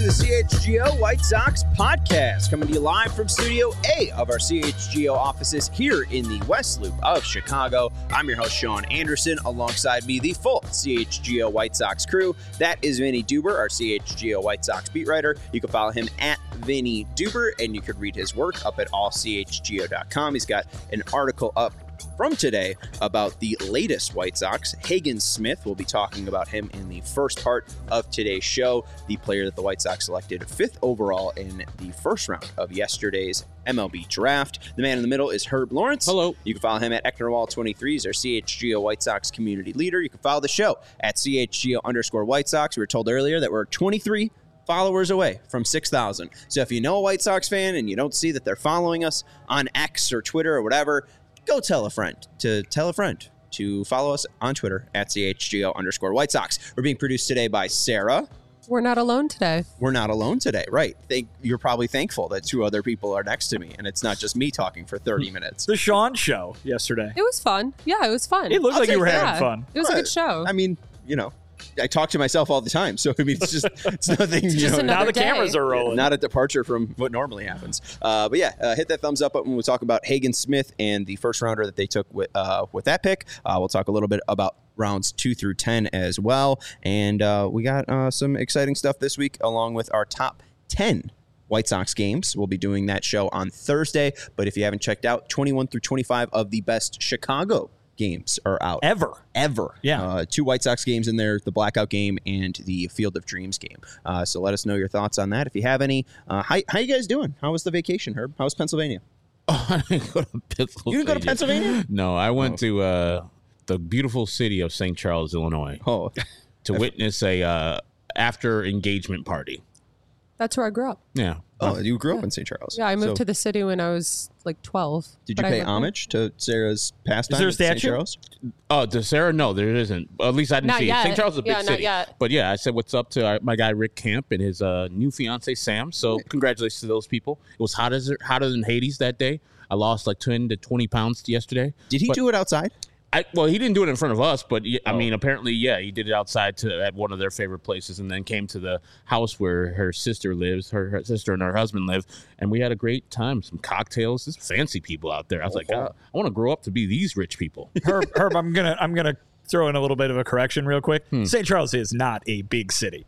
to the CHGO White Sox podcast, coming to you live from Studio A of our CHGO offices here in the West Loop of Chicago. I'm your host, Sean Anderson. Alongside me, the full CHGO White Sox crew. That is Vinny Duber, our CHGO White Sox beat writer. You can follow him at Vinny Duber, and you could read his work up at allchgo.com. He's got an article up from today about the latest White Sox. Hagen Smith, will be talking about him in the first part of today's show, the player that the White Sox selected 5th overall in the first round of yesterday's MLB draft. The man in the middle is Herb Lawrence. Hello. You can follow him at Ecknerwall23. He's our CHGO White Sox community leader. You can follow the show at CHGO_White Sox. We were told earlier that we're 23 followers away from 6,000. So if you know a White Sox fan and you don't see that they're following us on X or Twitter or whatever, go tell a friend to follow us on Twitter at CHGO_White Sox. We're being produced today by Sarah. We're not alone today. We're not alone today, right? You're probably thankful that 2 other people are next to me, and it's not just me talking for 30 minutes. The Sean show yesterday. It was fun. Yeah, it was fun. It looked like you were having fun. It was a good show. I mean, I talk to myself all the time, so I mean, it's nothing. Now the cameras are rolling. Not a departure from what normally happens. But yeah, hit that thumbs up button when we talk about Hagen Smith and the first rounder that they took with that pick. We'll talk a little bit about rounds 2 through 10 as well, and we got some exciting stuff this week, along with our top 10 White Sox games. We'll be doing that show on Thursday. But if you haven't checked out, 21 through 25 of the best Chicago games are out. Ever. Yeah. 2 White Sox games in there, the Blackout game and the Field of Dreams game. So let us know your thoughts on that. If you have any, how you guys doing? How was the vacation, Herb? How was Pennsylvania? Oh, I didn't go to Pennsylvania. You didn't go to Pennsylvania? No, I went to the beautiful city of St. Charles, Illinois, to witness a after engagement party. That's where I grew up. Yeah. Oh, you grew up in St. Charles. Yeah, I moved to the city when I was like 12. Did you pay homage to Sarah's pastime? Is there a at St. statue? Charles? Oh, to Sarah? No, there isn't. At least I didn't Not see yet. it. St. Charles is a big Not city. yet. But yeah, I said what's up to my guy Rick Camp and his new fiance Sam. So congratulations to those people. It was hotter than Hades that day. I lost like 10 to 20 pounds yesterday. Did he do it outside? Well, he didn't do it in front of us, but I mean, apparently, yeah, he did it outside at one of their favorite places, and then came to the house where her sister lives, her sister and her husband live, and we had a great time. Some cocktails, there's fancy people out there. I was like, I want to grow up to be these rich people. Herb, I'm gonna throw in a little bit of a correction real quick. St. Charles is not a big city.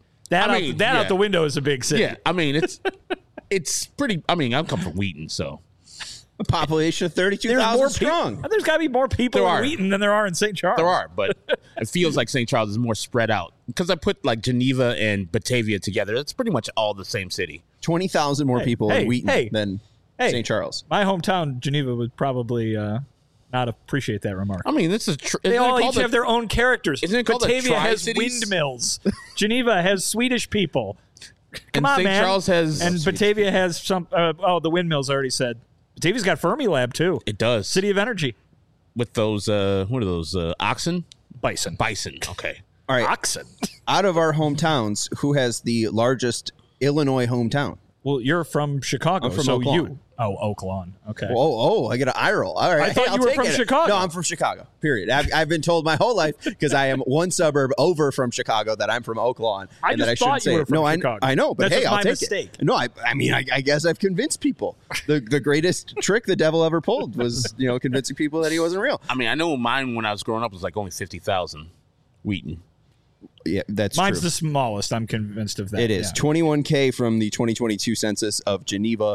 Out the window is a big city. Yeah, I mean it's pretty. I mean, I come from Wheaton, so. A population of 32,000 strong. There's got to be more people in Wheaton than there are in St. Charles. There are, but it feels like St. Charles is more spread out. Because I put like Geneva and Batavia together. It's pretty much all the same city. 20,000 more people in Wheaton than St. Charles. My hometown, Geneva, would probably not appreciate that remark. I mean, this is they all each have their own characters. Isn't it called Batavia has Tri-Cities? windmills. Geneva has Swedish people. Come and on, St. man. Charles has... And Batavia has some... the windmills I already said. Batavia's got Fermilab, too. It does. City of Energy. With those, what are those, oxen? Bison. Okay. All right. Oxen. Out of our hometowns, who has the largest Illinois hometown? Well, you're from Chicago, I'm from so Oak Lawn. you... Oh, Oak Lawn. Okay. I get an eye roll. All right. I thought you were from Chicago. No, I'm from Chicago, period. I've been told my whole life, because I am one suburb over from Chicago, that I'm from Oak Lawn. I just thought you were from Chicago. I know, but That's hey, just I'll my take mistake. it. No, I mean, I guess I've convinced people. The greatest trick the devil ever pulled was, convincing people that he wasn't real. I mean, I know mine when I was growing up was like only 50,000. Wheaton. Yeah, that's Mine's true. the smallest. I'm convinced of that. It is. Yeah. 21K from the 2022 census of Geneva,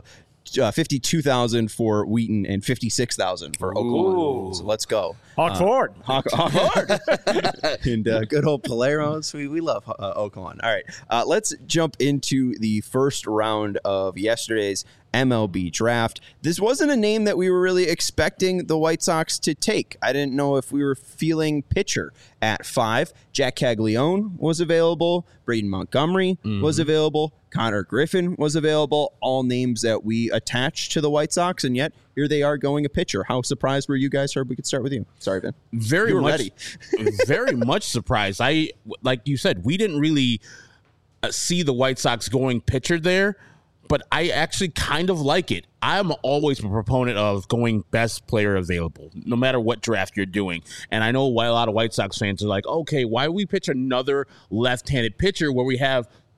52,000 for Wheaton, and 56,000 for Oak Lawn. So let's go. Hawk Ford. Hawk Ford. And good old Paleros. We love Oak Lawn. All right. Let's jump into the first round of yesterday's MLB draft. This wasn't a name that we were really expecting the White Sox to take. I didn't know if we were feeling pitcher at 5. Jack Caglione was available. Braden Montgomery was available. Connor Griffin was available. All names that we attached to the White Sox, and yet here they are going a pitcher. How surprised were you guys? Herb, we could start with you. Sorry, Ben. Very You were much ready. Very much surprised. Like you said, we didn't really see the White Sox going pitcher there, but I actually kind of like it. I'm always a proponent of going best player available, no matter what draft you're doing. And I know why a lot of White Sox fans are like, okay, why do we pitch another left-handed pitcher where we have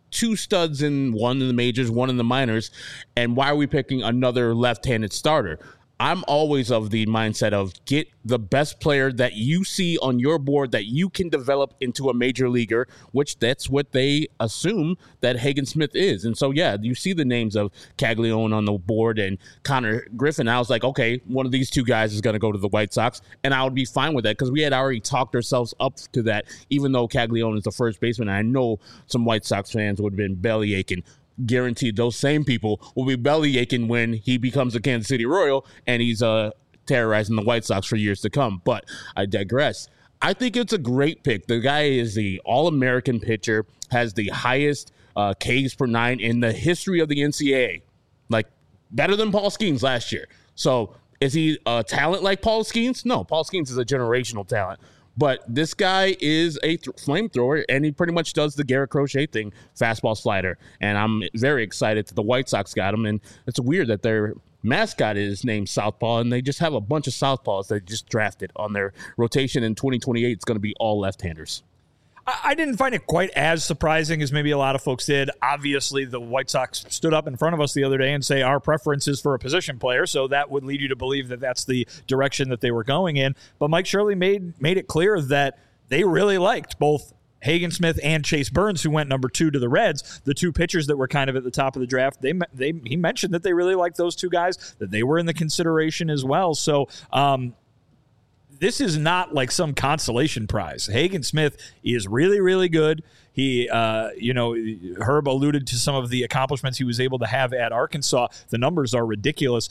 two studs in one in the majors, one in the minors, and why are we picking another left-handed starter? I'm always of the mindset of get the best player that you see on your board that you can develop into a major leaguer, which that's what they assume that Hagen Smith is. And so, yeah, you see the names of Caglione on the board and Connor Griffin. I was like, okay, one of these two guys is going to go to the White Sox, and I would be fine with that because we had already talked ourselves up to that, even though Caglione is the first baseman. And I know some White Sox fans would have been belly aching. Guaranteed those same people will be belly aching when he becomes a Kansas City Royal and he's terrorizing the White Sox for years to come. But I digress. I think it's a great pick. The guy is the All-American pitcher, has the highest Ks per nine in the history of the NCAA. Like, better than Paul Skeens last year. So is he a talent like Paul Skeens? No, Paul Skeens is a generational talent. But this guy is a flamethrower, and he pretty much does the Garrett Crochet thing, fastball slider. And I'm very excited that the White Sox got him. And it's weird that their mascot is named Southpaw, and they just have a bunch of Southpaws they just drafted on their rotation. In 2028, it's going to be all left-handers. I didn't find it quite as surprising as maybe a lot of folks did. Obviously, the White Sox stood up in front of us the other day and say our preference is for a position player, so that would lead you to believe that that's the direction that they were going in. But Mike Shirley made it clear that they really liked both Hagen Smith and Chase Burns, who went number 2 to the Reds, the two pitchers that were kind of at the top of the draft. He mentioned that they really liked those two guys, that they were in the consideration as well. So, this is not like some consolation prize. Hagen Smith is really, really good. He, Herb alluded to some of the accomplishments he was able to have at Arkansas. The numbers are ridiculous.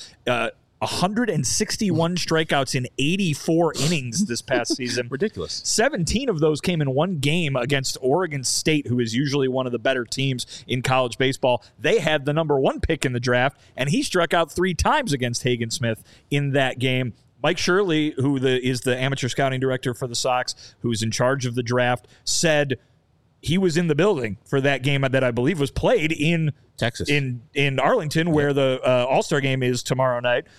161 strikeouts in 84 innings this past season. Ridiculous. 17 of those came in one game against Oregon State, who is usually one of the better teams in college baseball. They had the number 1 pick in the draft, and he struck out 3 times against Hagen Smith in that game. Mike Shirley, who is the amateur scouting director for the Sox, who's in charge of the draft, said he was in the building for that game that I believe was played in Texas, in Arlington, where the All-Star game is tomorrow night.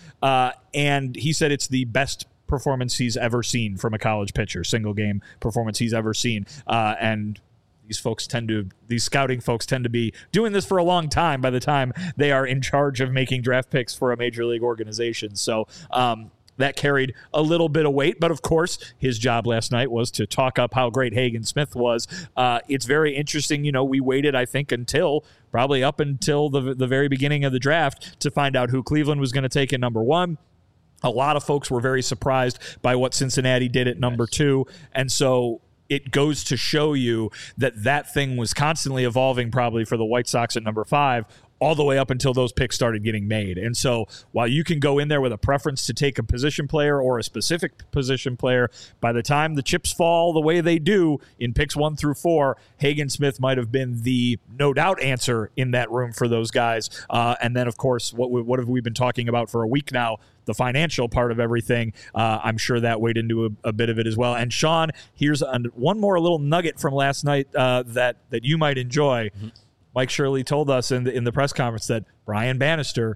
And he said it's the best performance he's ever seen from a college pitcher, single game performance he's ever seen. And these scouting folks tend to be doing this for a long time by the time they are in charge of making draft picks for a major league organization. So, that carried a little bit of weight, but of course, his job last night was to talk up how great Hagen Smith was. It's very interesting. We waited, I think, probably up until the very beginning of the draft to find out who Cleveland was going to take at number 1. A lot of folks were very surprised by what Cincinnati did at number 2, and so it goes to show you that thing was constantly evolving probably for the White Sox at number 5, all the way up until those picks started getting made. And so while you can go in there with a preference to take a position player or a specific position player, by the time the chips fall the way they do in picks 1 through 4, Hagen Smith might have been the no doubt answer in that room for those guys. And then, of course, what have we been talking about for a week now? The financial part of everything. I'm sure that weighed into a bit of it as well. And Sean, here's one more little nugget from last night that you might enjoy. Mm-hmm. Mike Shirley told us in the press conference that Brian Bannister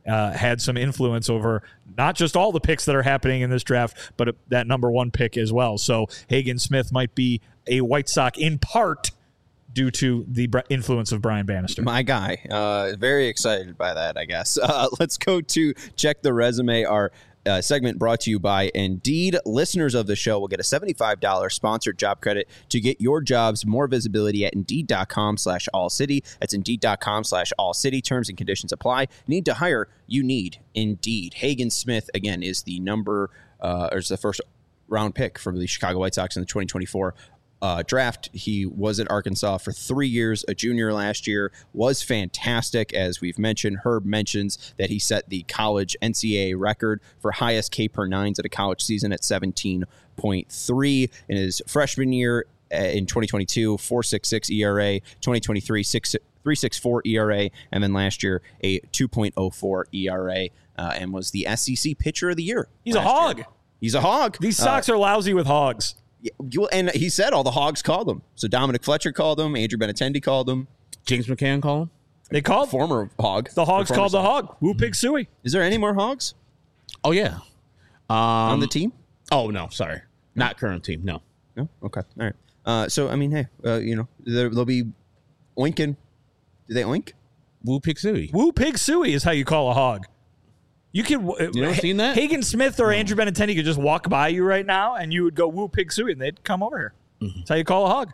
had some influence over not just all the picks that are happening in this draft, but that number 1 pick as well. So Hagen Smith might be a White Sox in part due to the influence of Brian Bannister. My guy. Very excited by that, I guess. Let's go to Check the Resume, our segment brought to you by Indeed. Listeners of the show will get a $75 sponsored job credit to get your jobs more visibility at Indeed.com/AllCity. That's Indeed.com/AllCity. Terms and conditions apply. Need to hire? You need Indeed. Hagen Smith, again, is the is the first round pick for the Chicago White Sox in the 2024 draft. He was at Arkansas for 3 years, a junior last year, was fantastic. As we've mentioned, Herb mentions that he set the college NCAA record for highest K per nines at a college season at 17.3 in his freshman year in 2022, 4.66 ERA, 2023, 3.64 ERA, and then last year a 2.04 ERA, and was the SEC Pitcher of the Year. He's a hog. He's a hog. These Sox are lousy with hogs. Yeah, and he said all the hogs called him. So Dominic Fletcher called him. Andrew Benintendi called him. James McCann called him. They called former hog. The hogs called the hog. Woo Pig Suey. Is there any more hogs? Oh yeah, on the team? Oh no, sorry, not current team. No. Okay, all right. So I mean, hey, there'll be Oinkin Do they oink? Woo Pig Suey. Woo Pig Suey is how you call a hog. You could. You ever seen that? Hagen Smith or Andrew Benintendi could just walk by you right now, and you would go Woo Pig Suey, and they'd come over here. That's how you call a hog.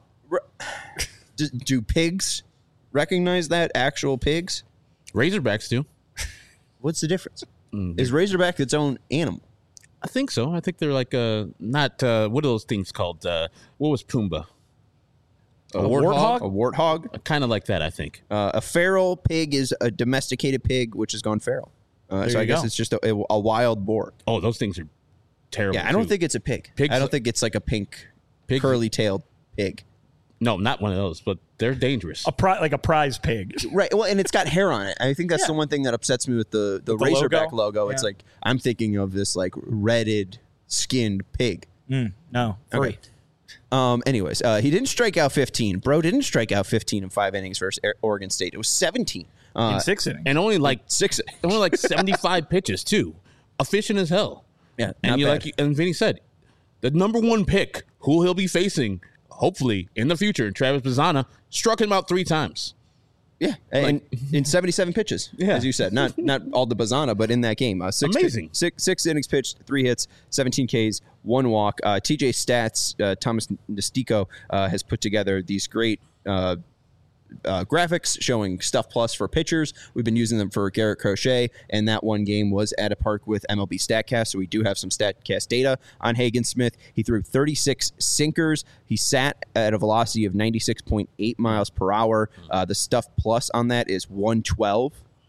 Do pigs recognize that? Actual pigs? Razorbacks do. What's the difference? Is Razorback its own animal? I think so. I think they're like not what are those things called? What was Pumbaa? A warthog? A warthog? Kind of like that, I think. A feral pig is a domesticated pig which has gone feral. So I guess it's just a wild boar. Oh, those things are terrible. Yeah, I don't think it's a pig. I don't think it's like a pink, curly-tailed pig. No, not one of those, but they're dangerous. Like a prize pig. Right. Well, and it's got hair on it. I think that's the one thing that upsets me with the Razorback logo. It's like I'm thinking of this like redded skinned pig. No. Free. Okay. Anyways, he didn't strike out 15. Bro didn't strike out 15 in 5 innings versus Oregon State. It was 17. In 6 innings. And only like 6 only like 75 pitches too. Efficient as hell. Yeah. And and Vinny said, the number 1 pick who he'll be facing hopefully in the future, Travis Bazzana, struck him out 3 times. Yeah, in 77 pitches, as you said. Not all the Bazzana, but in that game. Amazing. Six innings pitched, 3 hits, 17 Ks, 1 walk. TJ Stats, Thomas Nestico has put together these great graphics showing Stuff Plus for pitchers. We've been using them for Garrett Crochet, and that one game was at a park with MLB StatCast, so we do have some StatCast data on Hagen Smith. He threw 36 sinkers. He sat at a velocity of 96.8 miles per hour. The Stuff Plus on that is 112.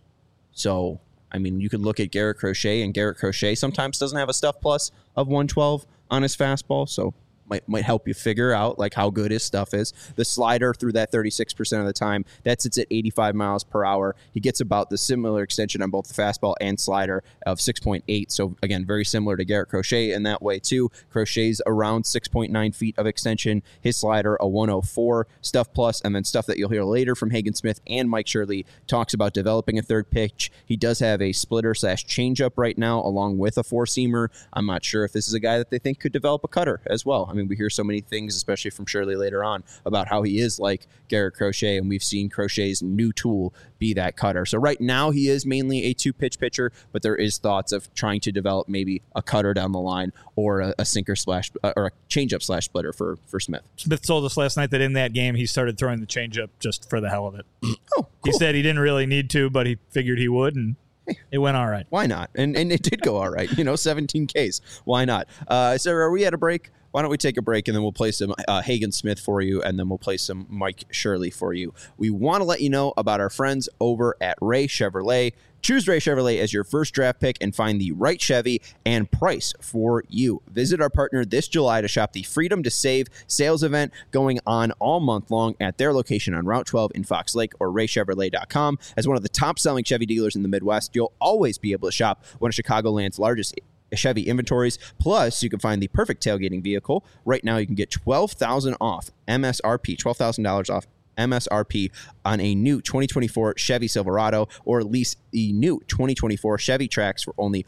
So, I mean, you could look at Garrett Crochet, and Garrett Crochet sometimes doesn't have a Stuff Plus of 112 on his fastball, so might help you figure out like how good his stuff is. The slider through that 36% of the time, that sits at 85 miles per hour. He gets about the similar extension on both the fastball and slider of 6.8. So again, very similar to Garrett Crochet in that way too. Crochet's around 6.9 feet of extension. His slider a 104. Stuff Plus, and then stuff that you'll hear later from Hagen Smith and Mike Shirley talks about developing a third pitch. He does have a splitter / changeup right now along with a 4-seamer. I'm not sure if this is a guy that they think could develop a cutter as well. I mean, we hear so many things, especially from Shirley later on, about how he is like Garrett Crochet, and we've seen Crochet's new tool be that cutter. So right now he is mainly a 2-pitch pitcher, but there is thoughts of trying to develop maybe a cutter down the line or a sinker / or a changeup / splitter for Smith. Smith told us last night that in that game he started throwing the changeup just for the hell of it. Oh, cool. He said he didn't really need to, but he figured he would, and it went all right. Why not? And it did go all right. 17 Ks. Why not? So are we at a break? Why don't we take a break, and then we'll play some Hagen Smith for you, and then we'll play some Mike Shirley for you. We want to let you know about our friends over at Ray Chevrolet. Choose Ray Chevrolet as your first draft pick and find the right Chevy and price for you. Visit our partner this July to shop the Freedom to Save sales event going on all month long at their location on Route 12 in Fox Lake or raychevrolet.com. As one of the top-selling Chevy dealers in the Midwest, you'll always be able to shop one of Chicagoland's largest Chevy inventories. Plus, you can find the perfect tailgating vehicle. Right now, you can get $12,000 off MSRP, $12,000 off MSRP on a new 2024 Chevy Silverado, or lease the new 2024 Chevy Trax for only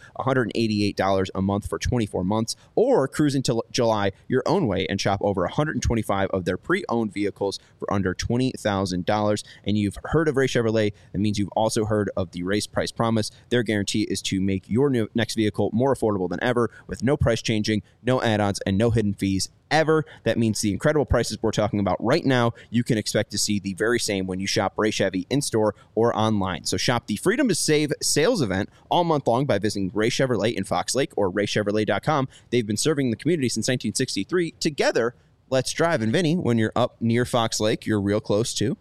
$188 a month for 24 months, or cruise into July your own way and shop over 125 of their pre-owned vehicles for under $20,000. And you've heard of Ray Chevrolet, that means you've also heard of the Race Price Promise. Their guarantee is to make your next vehicle more affordable than ever, with no price changing, no add-ons, and no hidden fees ever. That means the incredible prices we're talking about right now, you can expect to see the very same when you shop Ray Chevy in-store or online. So shop the Freedom to Save sales event all month long by visiting Ray Chevrolet in Fox Lake or raychevrolet.com. They've been serving the community since 1963. Together, let's drive. And Vinny, when you're up near Fox Lake, you're real close to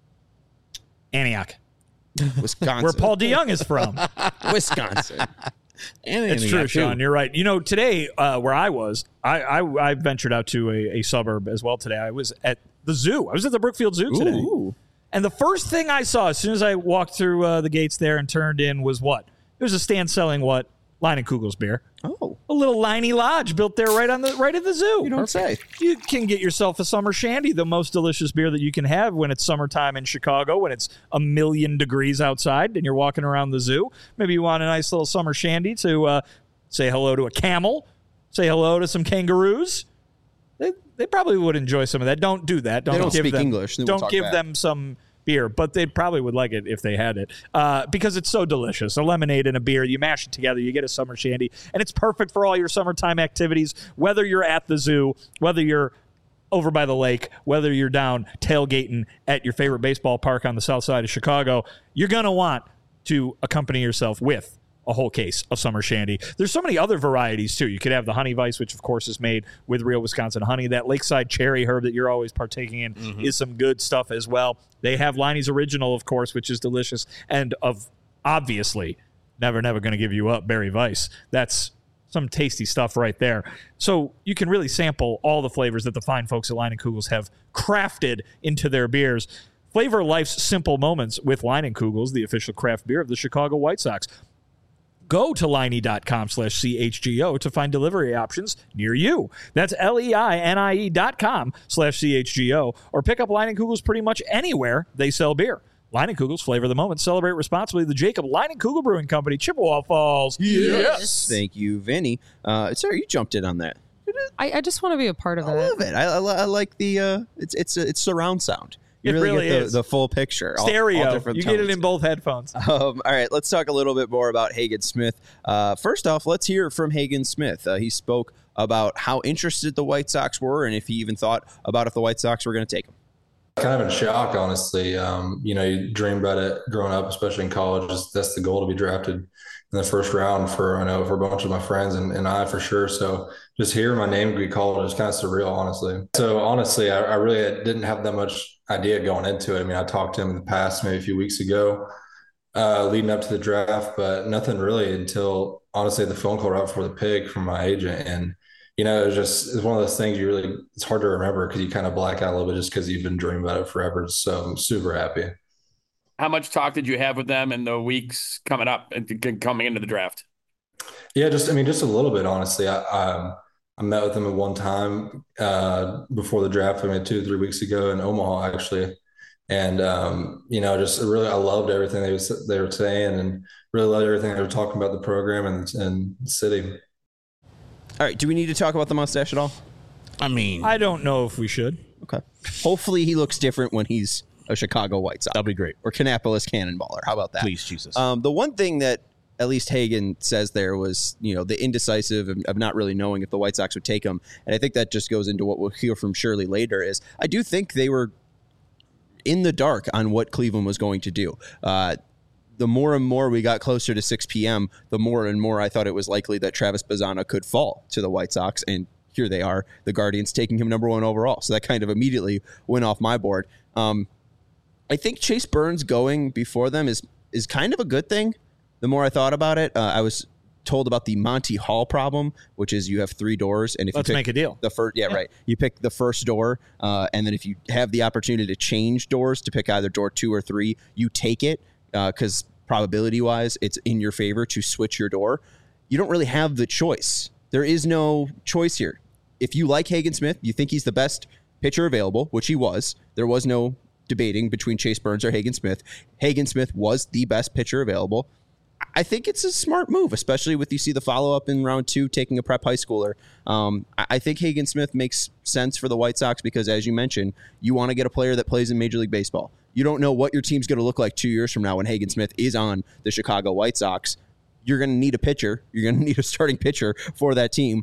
Antioch, Wisconsin. where Paul DeYoung is from. Wisconsin. It's true, Sean. You're right. Today, where I was, I ventured out to a suburb as well today. I was at the zoo. I was at the Brookfield Zoo today. Ooh. And the first thing I saw as soon as I walked through the gates there and turned in was what? It was a stand selling what? Leinenkugel's beer. Oh. A little Liney Lodge built there right at the zoo. You don't say. You can get yourself a summer shandy, the most delicious beer that you can have when it's summertime in Chicago, when it's 1,000,000 degrees outside and you're walking around the zoo. Maybe you want a nice little summer shandy to say hello to a camel, say hello to some kangaroos. They probably would enjoy some of that. Don't do that. They don't speak English. Don't give them some beer, but they probably would like it if they had it because it's so delicious. A lemonade and a beer, you mash it together, you get a summer shandy, and it's perfect for all your summertime activities, whether you're at the zoo, whether you're over by the lake, whether you're down tailgating at your favorite baseball park on the south side of Chicago. You're going to want to accompany yourself with a whole case of summer shandy. There's so many other varieties, too. You could have the Honey Vice, which, of course, is made with real Wisconsin honey. That Lakeside Cherry Herb that you're always partaking in is some good stuff as well. They have Liney's Original, of course, which is delicious. And obviously, never going to give you up, Berry Vice. That's some tasty stuff right there. So you can really sample all the flavors that the fine folks at Leinenkugels have crafted into their beers. Flavor life's simple moments with Leinenkugels, the official craft beer of the Chicago White Sox. Go to Leinie.com/CHGO to find delivery options near you. That's LEINIE.com/CHGO, or pick up Leinenkugels pretty much anywhere they sell beer. Leinenkugels, flavor the moment. Celebrate responsibly. The Jacob Leinenkugel Brewing Company, Chippewa Falls. Yes. Thank you, Vinny. Sorry, you jumped in on that. I just want to be a part of it. I love it. I like the it's surround sound. You really get is. the full picture. Stereo. All different You tones. get it in both headphones. All right, let's talk a little bit more about Hagen Smith. First off, let's hear from Hagen Smith. He spoke about how interested the White Sox were and if he even thought about if the White Sox were going to take him. Kind of in shock, honestly. You dream about it growing up, especially in college. That's the goal, to be drafted in the first round for a bunch of my friends and I for sure. So just hearing my name be called is kind of surreal, honestly. So honestly, I really didn't have that much idea going into it. I mean, I talked to him in the past, maybe a few weeks ago, leading up to the draft, but nothing really until honestly the phone call right before the pick from my agent. And it's one of those things it's hard to remember because you kind of black out a little bit just because you've been dreaming about it forever. So I'm super happy. How much talk did you have with them in the weeks coming up and coming into the draft? Yeah, just a little bit, honestly. I met with them at one time before the draft. 2 or 3 weeks ago in Omaha, actually. And, just really, I loved everything they were saying and really loved everything they were talking about the program and the city. All right, do we need to talk about the mustache at all? I mean, I don't know if we should. Okay. Hopefully he looks different when he's a Chicago White Sox. that'll be great. Or Kannapolis Cannonballer. How about that? Please, Jesus. The one thing that at least Hagen says there was, the indecisive of not really knowing if the White Sox would take him. And I think that just goes into what we'll hear from Shirley later is I do think they were in the dark on what Cleveland was going to do. The more and more we got closer to 6 p.m., the more and more I thought it was likely that Travis Bazzana could fall to the White Sox. And here they are, the Guardians taking him number 1 overall. So that kind of immediately went off my board. I think Chase Burns going before them is kind of a good thing. The more I thought about it, I was told about the Monty Hall problem, which is you have 3 doors, and if Let's you pick make a deal. the first, right, you pick the first door, and then if you have the opportunity to change doors to pick either door 2 or 3, you take it because probability-wise, it's in your favor to switch your door. You don't really have the choice. There is no choice here. If you like Hagen Smith, you think he's the best pitcher available, which he was. There was no debating between Chase Burns or Hagen Smith. Hagen Smith was the best pitcher available. I think it's a smart move, especially with you see the follow-up in round 2 taking a prep high schooler. I think Hagen Smith makes sense for the White Sox because, as you mentioned, you want to get a player that plays in Major League Baseball. You don't know what your team's going to look like 2 years from now when Hagen Smith is on the Chicago White Sox. You're going to need a pitcher. You're going to need a starting pitcher for that team.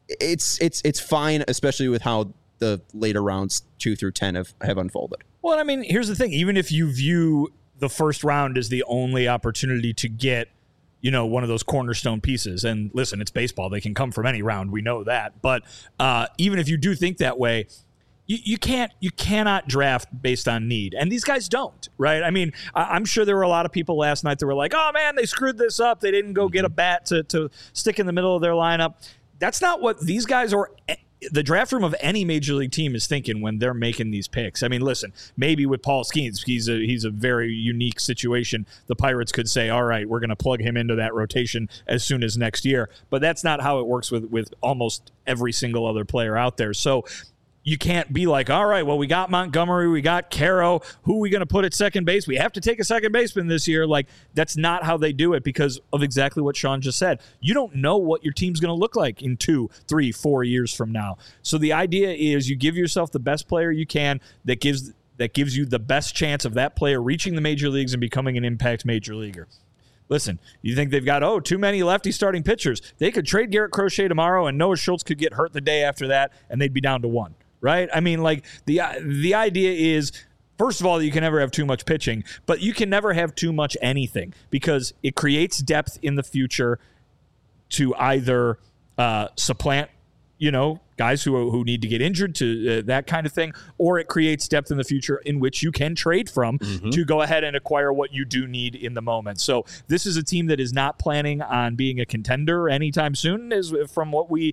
It's fine, especially with how the later rounds 2 through 10 have unfolded. Well, I mean, here's the thing. Even if you view the first round as the only opportunity to get, one of those cornerstone pieces, and listen, it's baseball. They can come from any round. We know that. But even if you do think that way, you cannot draft based on need. And these guys don't, right? I mean, I'm sure there were a lot of people last night that were like, oh, man, they screwed this up. They didn't go get a bat to stick in the middle of their lineup. That's not what these guys are. The draft room of any major league team is thinking when they're making these picks. I mean, listen, maybe with Paul Skeens, he's a very unique situation. The Pirates could say, all right, we're going to plug him into that rotation as soon as next year. But that's not how it works with almost every single other player out there. So you can't be like, all right, well, we got Montgomery, we got Caro. Who are we going to put at second base? We have to take a second baseman this year. Like, that's not how they do it because of exactly what Sean just said. You don't know what your team's going to look like in 2, 3, 4 years from now. So the idea is you give yourself the best player you can that that gives you the best chance of that player reaching the major leagues and becoming an impact major leaguer. Listen, you think they've got, too many lefty starting pitchers. They could trade Garrett Crochet tomorrow, and Noah Schultz could get hurt the day after that, and they'd be down to one, right? I mean, like, the idea is, first of all, you can never have too much pitching, but you can never have too much anything because it creates depth in the future to either supplant, guys who need to get injured to that kind of thing, or it creates depth in the future in which you can trade from to go ahead and acquire what you do need in the moment. So this is a team that is not planning on being a contender anytime soon, is from what we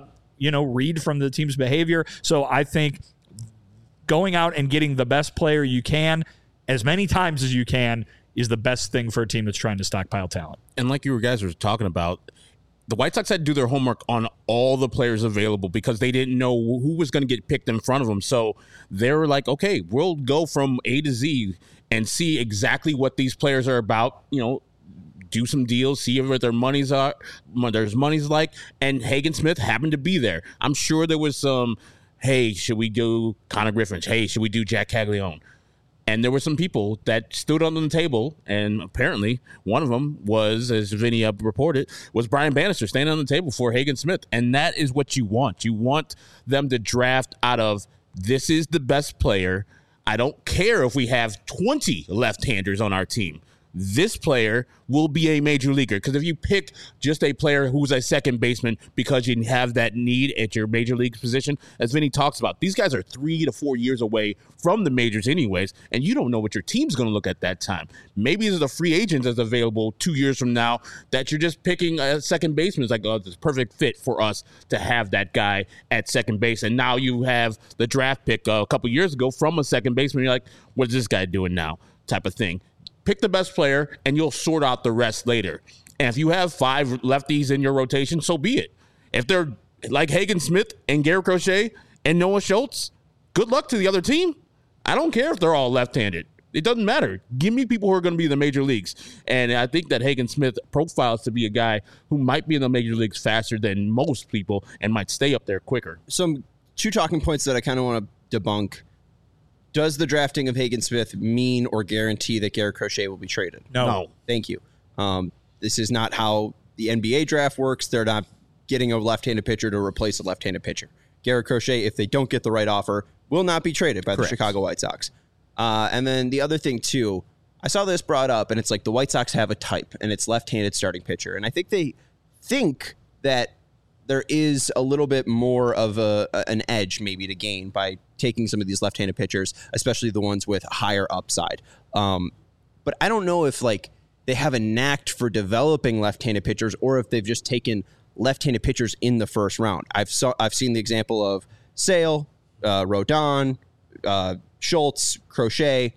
read from the team's behavior. So I think going out and getting the best player you can as many times as you can is the best thing for a team that's trying to stockpile talent. And like you guys were talking about, the White Sox had to do their homework on all the players available because they didn't know who was going to get picked in front of them. So they were like, okay, we'll go from A to Z and see exactly what these players are about, do some deals, see what their money's are, what their money's like. And Hagen Smith happened to be there. I'm sure there was some, hey, should we do Connor Griffin? Hey, should we do Jack Caglione? And there were some people that stood on the table, and apparently one of them was, as Vinny reported, was Brian Bannister standing on the table for Hagen Smith. And that is what you want. You want them to draft out of, this is the best player. I don't care if we have 20 left-handers on our team. This player will be a major leaguer. Because if you pick just a player who's a second baseman because you have that need at your major league position, as Vinny talks about, these guys are 3 to 4 years away from the majors anyways, and you don't know what your team's going to look at that time. Maybe there's a free agent that's available 2 years from now that you're just picking a second baseman. It's like, oh, it's a perfect fit for us to have that guy at second base. And now you have the draft pick a couple years ago from a second baseman. You're like, what's this guy doing now? Type of thing. Pick the best player, and you'll sort out the rest later. And if you have 5 lefties in your rotation, so be it. If they're like Hagen Smith and Garrett Crochet and Noah Schultz, good luck to the other team. I don't care if they're all left-handed. It doesn't matter. Give me people who are going to be in the major leagues. And I think that Hagen Smith profiles to be a guy who might be in the major leagues faster than most people and might stay up there quicker. Some 2 talking points that I kind of want to debunk. Does the drafting of Hagen Smith mean or guarantee that Garrett Crochet will be traded? No. Thank you. This is not how the NBA draft works. They're not getting a left-handed pitcher to replace a left-handed pitcher. Garrett Crochet, if they don't get the right offer, will not be traded by the Chicago White Sox. And then the other thing, too, I saw this brought up, and it's like the White Sox have a type, and it's left-handed starting pitcher. And I think they think that there is a little bit more of an edge maybe to gain by taking some of these left-handed pitchers, especially the ones with higher upside. But I don't know if they have a knack for developing left-handed pitchers or if they've just taken left-handed pitchers in the first round. I've seen the example of Sale, Rodon, Schultz, Crochet.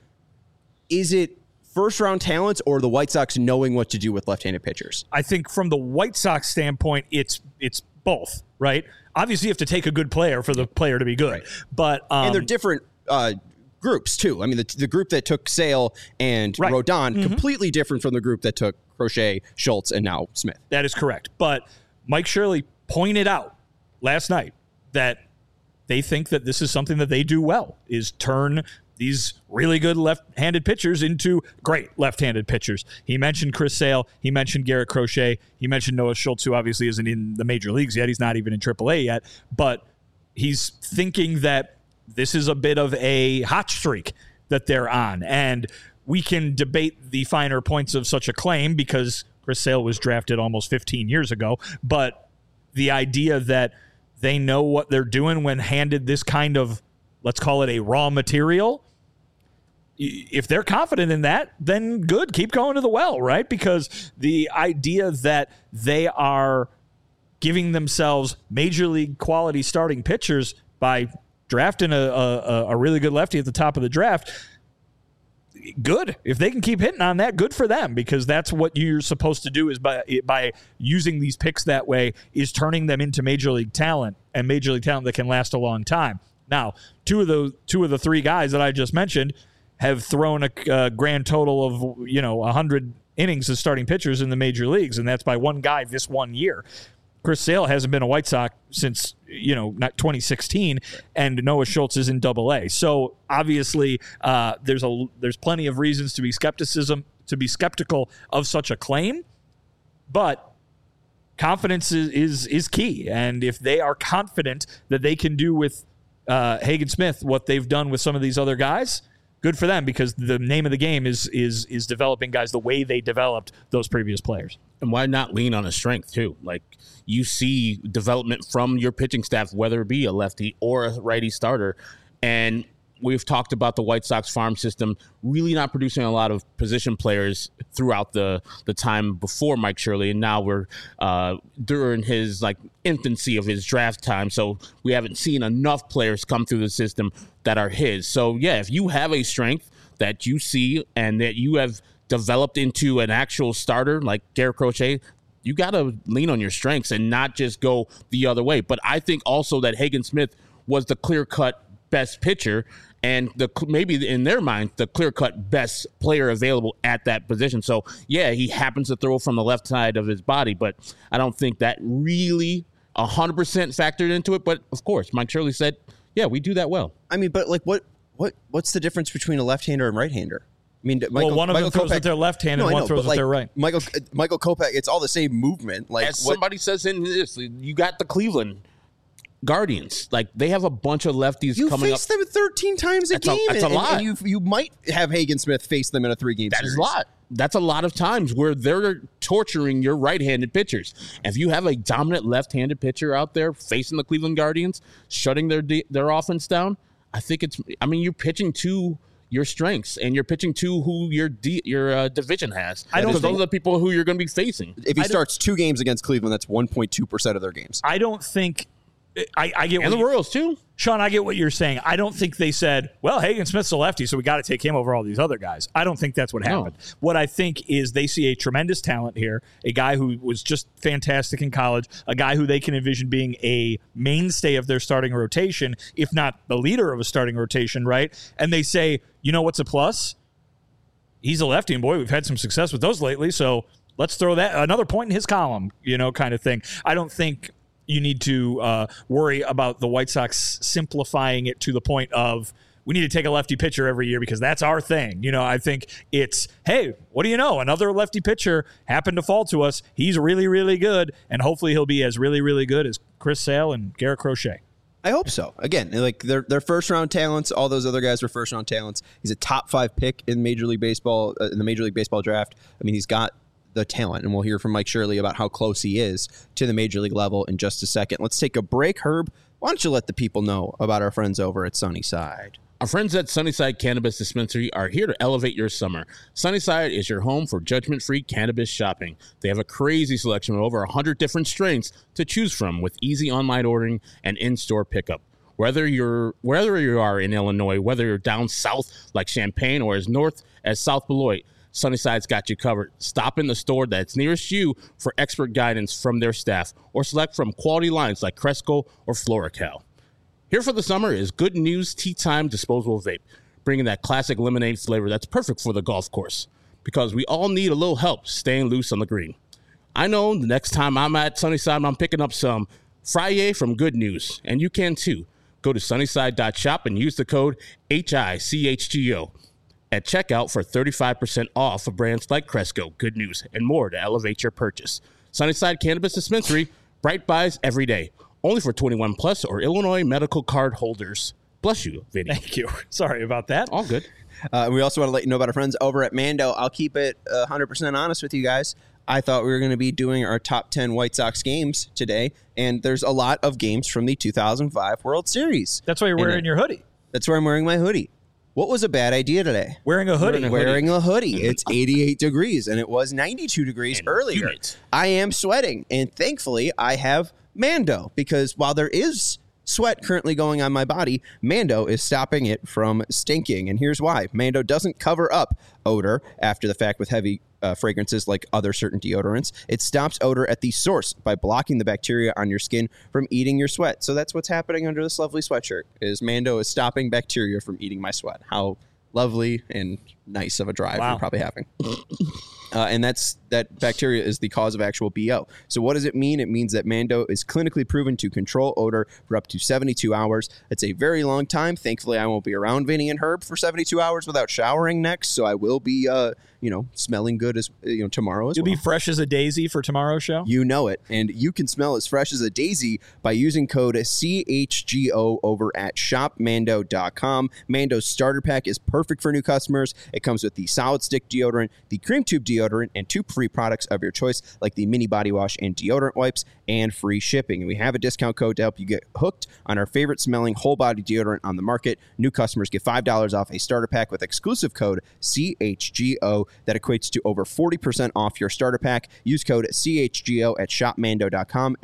Is it first-round talents or the White Sox knowing what to do with left-handed pitchers? I think from the White Sox standpoint, it's both, right? Obviously, you have to take a good player for the player to be good. Right. But and they're different groups, too. I mean, the group that took Sale and Rodon, completely different from the group that took Crochet, Schultz, and now Smith. That is correct. But Mike Shirley pointed out last night that they think that this is something that they do well, is turn these really good left-handed pitchers into great left-handed pitchers. He mentioned Chris Sale. He mentioned Garrett Crochet. He mentioned Noah Schultz, who obviously isn't in the major leagues yet. He's not even in AAA yet. But he's thinking that this is a bit of a hot streak that they're on. And we can debate the finer points of such a claim because Chris Sale was drafted almost 15 years ago. But the idea that they know what they're doing when handed this kind of, let's call it a raw material, if they're confident in that, then good, keep going to the well, right? Because the idea that they are giving themselves major league quality starting pitchers by drafting a really good lefty at the top of the draft, good. If they can keep hitting on that, good for them, because that's what you're supposed to do, is by using these picks that way, is turning them into major league talent, and major league talent that can last a long time. Now, two of the 3 guys that I just mentioned have thrown a grand total of 100 innings as starting pitchers in the major leagues, and that's by one guy this 1 year. Chris Sale hasn't been a White Sox since not 2016, and Noah Schultz is in Double-A. So obviously, there's plenty of reasons to be skeptical of such a claim, but confidence is key. And if they are confident that they can do with Hagen Smith what they've done with some of these other guys, good for them, because the name of the game is developing guys the way they developed those previous players. And why not lean on a strength too? Like, you see development from your pitching staff, whether it be a lefty or a righty starter. And we've talked about the White Sox farm system really not producing a lot of position players throughout the time before Mike Shirley, and now we're during his infancy of his draft time, so we haven't seen enough players come through the system that are his. So yeah, if you have a strength that you see and that you have developed into an actual starter like Garrett Crochet, you got to lean on your strengths and not just go the other way. But I think also that Hagen Smith was the clear-cut best pitcher, and maybe in their mind, the clear-cut best player available at that position. So, yeah, he happens to throw from the left side of his body, but I don't think that really 100% factored into it. But, of course, Mike Shirley said, yeah, we do that well. I mean, but what's the difference between a left-hander and right-hander? I mean, one of them throws with their left hand and one throws with their right. Michael Kopech, it's all the same movement. As somebody says in this, you got the Cleveland Guardians. They have a bunch of lefties coming up. You face them 13 times a game. That's a lot. And you might have Hagen Smith face them in a 3-game series. That is a lot. That's a lot of times where they're torturing your right-handed pitchers. If you have a dominant left-handed pitcher out there facing the Cleveland Guardians, shutting their offense down, I think you're pitching to your strengths, and you're pitching to who your division has. Those are the people who you're going to be facing. If he starts 2 games against Cleveland, that's 1.2% of their games. I don't think I get, and the Royals too. Sean, I get what you're saying. I don't think they said, well, Hagen Smith's a lefty, so we got to take him over all these other guys. I don't think that's what happened. No. What I think is they see a tremendous talent here, a guy who was just fantastic in college, a guy who they can envision being a mainstay of their starting rotation, if not the leader of a starting rotation, right? And they say, you know what's a plus? He's a lefty, and boy, we've had some success with those lately, so let's throw that another point in his column, kind of thing. I don't think you need to worry about the White Sox simplifying it to the point of we need to take a lefty pitcher every year because that's our thing. I think it's, hey, what do you know? Another lefty pitcher happened to fall to us. He's really, really good, and hopefully he'll be as really, really good as Chris Sale and Garrett Crochet. I hope so. Again, they're first-round talents. All those other guys were first-round talents. He's a top 5 pick in Major League Baseball, in the Major League Baseball draft. I mean, he's got the talent, and we'll hear from Mike Shirley about how close he is to the Major League level in just a second. Let's take a break. Herb, why don't you let the people know about our friends over at Sunnyside? Our friends at Sunnyside Cannabis Dispensary are here to elevate your summer. Sunnyside is your home for judgment-free cannabis shopping. They have a crazy selection of over 100 different strains to choose from with easy online ordering and in-store pickup. Whether you are in Illinois, whether you're down south like Champaign or as north as South Beloit, Sunnyside's got you covered. Stop in the store that's nearest you for expert guidance from their staff, or select from quality lines like Cresco or FloraCal. Here for the summer is Good News Tea Time Disposable Vape, bringing that classic lemonade flavor that's perfect for the golf course, because we all need a little help staying loose on the green. I know the next time I'm at Sunnyside, I'm picking up some Friday from Good News, and you can too. Go to sunnyside.shop and use the code HICHGO at checkout for 35% off of brands like Cresco, Good News, and more to elevate your purchase. Sunnyside Cannabis Dispensary, bright buys every day. Only for 21 plus or Illinois medical card holders. Bless you, Vinny. Thank you. Sorry about that. All good. We also want to let you know about our friends over at Mando. I'll keep it 100% honest with you guys. I thought we were going to be doing our top 10 White Sox games today, and there's a lot of games from the 2005 World Series. That's why you're wearing your hoodie. That's why I'm wearing my hoodie. What was a bad idea today? Wearing a hoodie. Wearing a hoodie. It's 88 degrees, and it was 92 degrees earlier. I am sweating, and thankfully I have Mando, because while there is sweat currently going on my body, Mando is stopping it from stinking. And here's why. Mando doesn't cover up odor after the fact with heavy fragrances like other certain deodorants. It stops odor at the source by blocking the bacteria on your skin from eating your sweat. So that's what's happening under this lovely sweatshirt, is Mando is stopping bacteria from eating my sweat. How lovely and nice of a drive you're probably having. And that's that bacteria is the cause of actual BO. So what does it mean? It means that Mando is clinically proven to control odor for up to 72 hours. It's a very long time. Thankfully, I won't be around Vinny and Herb for 72 hours without showering next, so I will be, smelling good as tomorrow as well. You'll be fresh as a daisy for tomorrow's show? You know it. And you can smell as fresh as a daisy by using code CHGO over at shopmando.com. Mando's starter pack is perfect for new customers. It comes with the solid stick deodorant, the cream tube deodorant, and 2 free products of your choice, like the mini body wash and deodorant wipes, and free shipping. And we have a discount code to help you get hooked on our favorite smelling whole body deodorant on the market. New customers get $5 off a starter pack with exclusive code CHGO. That equates to over 40% off your starter pack. Use code CHGO at shopmando.com,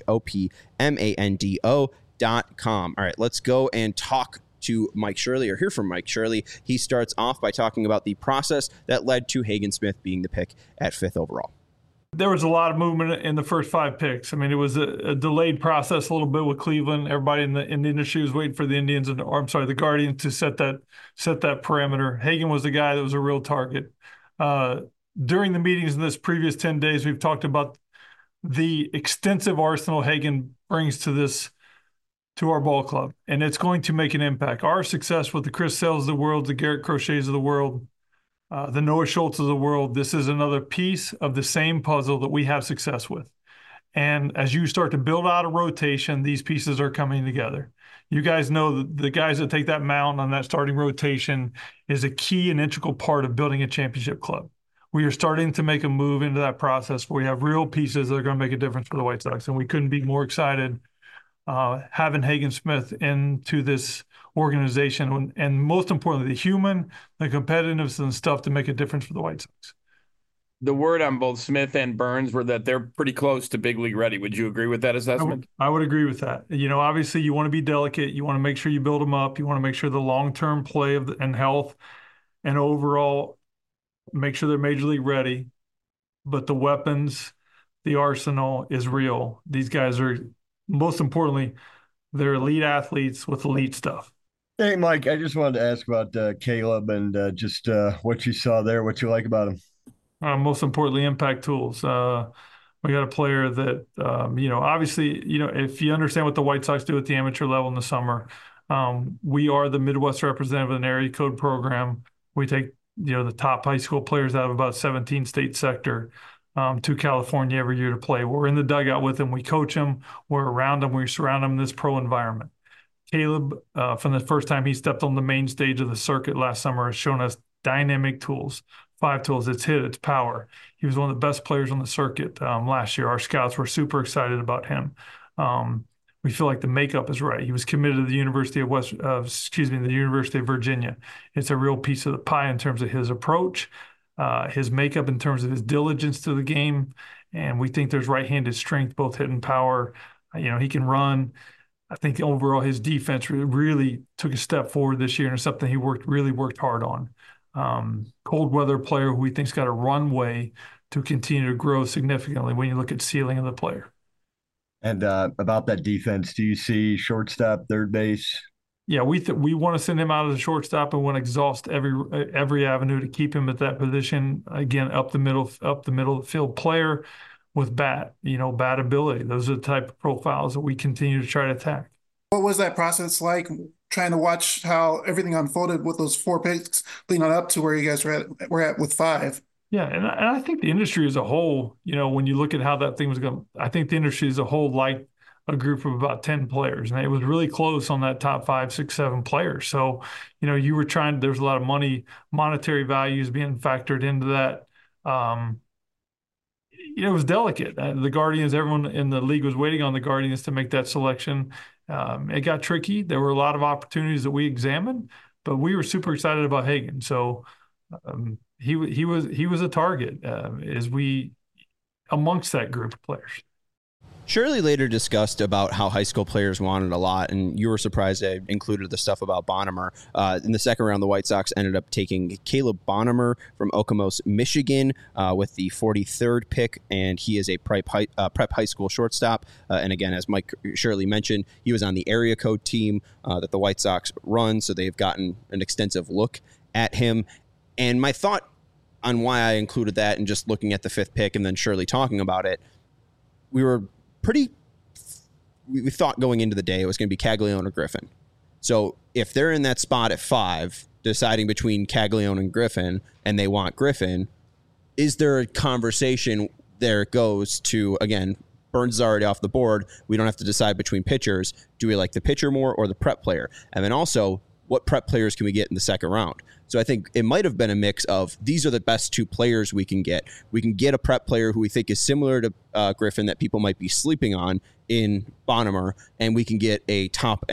SHOPMANDO.com. All right, let's go and talk to Mike Shirley, or hear from Mike Shirley. He starts off by talking about the process that led to Hagen Smith being the pick at 5th overall. There was a lot of movement in the first 5 picks. I mean, it was a delayed process a little bit with Cleveland. Everybody in the industry was waiting for the the Guardians to set that parameter. Hagen was the guy that was a real target. During the meetings in this previous 10 days, we've talked about the extensive arsenal Hagen brings to our ball club, and it's going to make an impact. Our success with the Chris Sales of the world, the Garrett Crochets of the world, the Noah Schultz of the world, this is another piece of the same puzzle that we have success with. And as you start to build out a rotation, these pieces are coming together. You guys know the guys that take that mound on that starting rotation is a key and integral part of building a championship club. We are starting to make a move into that process where we have real pieces that are going to make a difference for the White Sox, and we couldn't be more excited having Hagen Smith into this organization, and most importantly, the human, the competitiveness and stuff to make a difference for the White Sox. The word on both Smith and Burns were that they're pretty close to big league ready. Would you agree with that assessment? I would agree with that. Obviously you want to be delicate. You want to make sure you build them up. You want to make sure the long-term play and health and overall make sure they're major league ready. But the weapons, the arsenal is real. These guys are, most importantly, they're elite athletes with elite stuff. Hey, Mike, I just wanted to ask about Caleb and just what you saw there, what you like about him. Most importantly, impact tools. We got a player that, obviously, if you understand what the White Sox do at the amateur level in the summer, we are the Midwest representative of an area code program. We take, the top high school players out of about 17 state sector to California every year to play. We're in the dugout with them. We coach them. We're around them. We surround them in this pro environment. Caleb, from the first time he stepped on the main stage of the circuit last summer, has shown us dynamic tools. 5 tools, it's hit, it's power. He was one of the best players on the circuit last year. Our scouts were super excited about him. We feel like the makeup is right. He was committed to the University of the University of Virginia. It's a real piece of the pie in terms of his approach, his makeup in terms of his diligence to the game, and we think there's right-handed strength, both hit and power. He can run. I think overall his defense really took a step forward this year, and it's something he really worked hard on. Cold weather player who we think's got a runway to continue to grow significantly when you look at ceiling of the player. And about that defense, do you see shortstop, third base? Yeah, we want to send him out as a shortstop and want to exhaust every avenue to keep him at that position. Again, up the middle of the field player with bat ability. Those are the type of profiles that we continue to try to attack. What was that process like, trying to watch how everything unfolded with those 4 picks leading up to where you guys were at with 5? Yeah, and I think the industry as a whole, when you look at how that thing was going, I think the industry as a whole liked a group of about 10 players, and it was really close on that top 5, 6, 7 players. So, you were there's a lot of monetary values being factored into that. It was delicate. The Guardians, everyone in the league was waiting on the Guardians to make that selection. It got tricky. There were a lot of opportunities that we examined, but we were super excited about Hagen. So he was a target amongst that group of players. Shirley later discussed about how high school players wanted a lot, and you were surprised I included the stuff about Bonham. In the second round, the White Sox ended up taking Caleb Bonham from Okemos, Michigan, with the 43rd pick, and he is a prep high school shortstop. And again, as Mike Shirley mentioned, he was on the area code team that the White Sox run, so they've gotten an extensive look at him. And my thought on why I included that and just looking at the 5th pick and then Shirley talking about it, we thought going into the day it was going to be Caglianone or Griffin. So if they're in that spot at 5, deciding between Caglianone and Griffin, and they want Griffin, is there a conversation there goes to, again, Burns is already off the board. We don't have to decide between pitchers. Do we like the pitcher more or the prep player? And then also, what prep players can we get in the second round? So I think it might have been a mix of these are the best 2 players we can get. We can get a prep player who we think is similar to Griffin that people might be sleeping on in Bonham, and we can get a top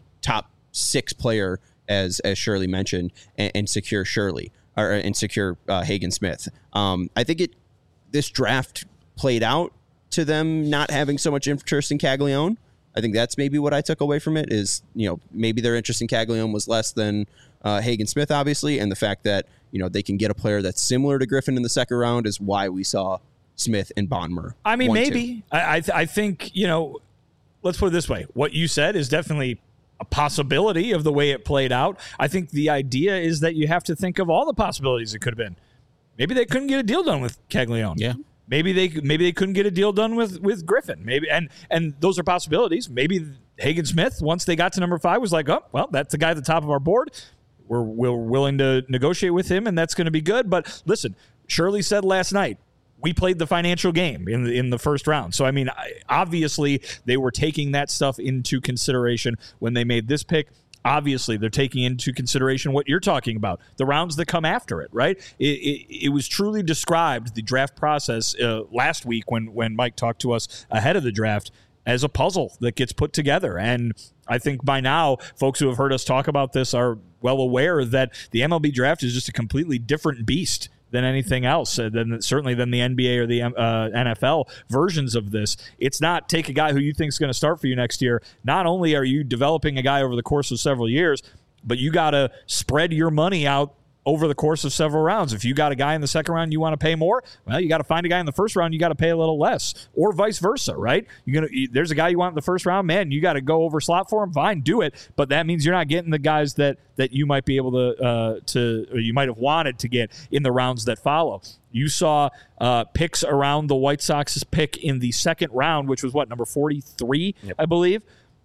6 player, as Shirley mentioned, and secure Shirley and secure Hagen Smith. I think this draft played out to them not having so much interest in Caglianone. I think that's maybe what I took away from it is, maybe their interest in Caglianone was less than Hagen Smith, obviously, and the fact that, they can get a player that's similar to Griffin in the second round is why we saw Smith and Bonmer. I mean, maybe. I think, let's put it this way. What you said is definitely a possibility of the way it played out. I think the idea is that you have to think of all the possibilities it could have been. Maybe they couldn't get a deal done with Caglianone. Yeah. Maybe they couldn't get a deal done with Griffin. Maybe and those are possibilities. Maybe Hagen Smith, once they got to number 5, was like, oh, well, that's the guy at the top of our board. We're willing to negotiate with him, and that's going to be good. But listen, Shirley said last night, we played the financial game in the first round. So, I mean, obviously they were taking that stuff into consideration when they made this pick. Obviously, they're taking into consideration what you're talking about, the rounds that come after it, right? It was truly described, the draft process last week when Mike talked to us ahead of the draft, as a puzzle that gets put together. And I think by now, folks who have heard us talk about this are well aware that the MLB draft is just a completely different beast than anything else, certainly than the NBA or the NFL versions of this. It's not take a guy who you think is going to start for you next year. Not only are you developing a guy over the course of several years, but you got to spread your money out over the course of several rounds. If you got a guy in the second round you want to pay more, well, you got to find a guy in the first round you got to pay a little less, or vice versa, right? There's a guy you want in the first round, man, you got to go over slot for him, fine, do it, but that means you're not getting the guys that you might be able to or you might have wanted to get in the rounds that follow. You saw picks around the White Sox's pick in the second round, which was number 43, yep. I believe.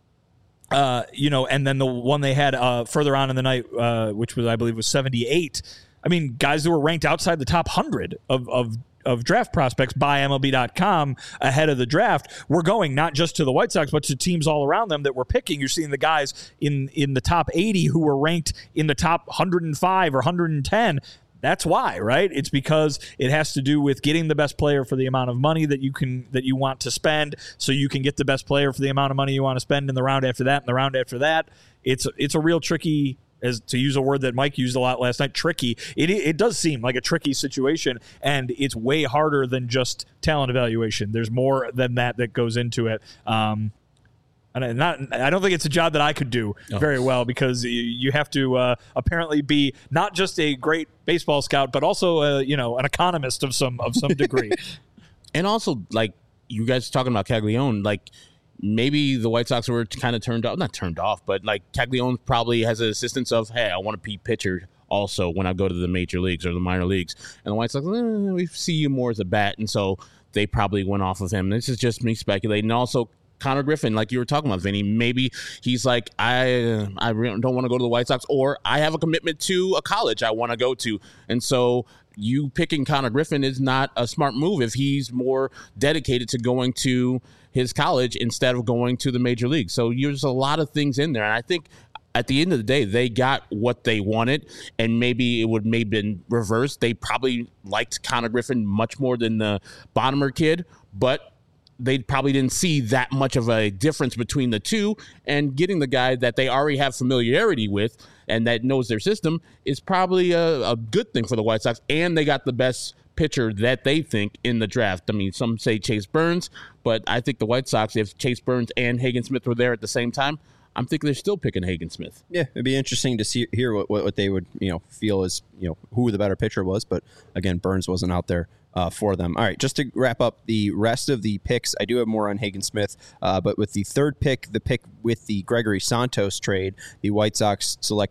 And then the one they had further on in the night, which was, I believe, was 78. I mean, guys that were ranked outside the top 100 of draft prospects by MLB.com ahead of the draft were going not just to the White Sox, but to teams all around them that were picking. You're seeing the guys in the top 80 who were ranked in the top 105 or 110. That's why, right? It's because it has to do with getting the best player for the amount of money that you want to spend, so you can get the best player for the amount of money you want to spend in the round after that and the round after that. It's a real tricky, as to use a word that Mike used a lot last night, tricky. It does seem like a tricky situation, and it's way harder than just talent evaluation. There's more than that goes into it. And I don't think it's a job that I could do very well, because you have to apparently be not just a great baseball scout, but also an economist of some degree. And also, like you guys talking about Caglianone, like maybe the White Sox were kind of not turned off, but like Caglianone probably has an assistance of, hey, I want to be pitcher also when I go to the major leagues or the minor leagues, and the White Sox, we see you more as a bat, and so they probably went off of him. This is just me speculating. And also, Connor Griffin, like you were talking about, Vinny, maybe he's like, I really don't want to go to the White Sox, or I have a commitment to a college I want to go to. And so you picking Connor Griffin is not a smart move if he's more dedicated to going to his college instead of going to the major league. So there's a lot of things in there. And I think at the end of the day, they got what they wanted, and maybe it would maybe been reversed. They probably liked Connor Griffin much more than the Bonham kid, but they probably didn't see that much of a difference between the two, and getting the guy that they already have familiarity with and that knows their system is probably a good thing for the White Sox, and they got the best pitcher that they think in the draft. I mean, some say Chase Burns, but I think the White Sox, if Chase Burns and Hagen Smith were there at the same time, I'm thinking they're still picking Hagen Smith. Yeah, it'd be interesting to hear what they would feel is who the better pitcher was, but again, Burns wasn't out there for them. All right, just to wrap up the rest of the picks, I do have more on Hagen Smith, but with the third pick, the pick with the Gregory Santos trade, the White Sox selected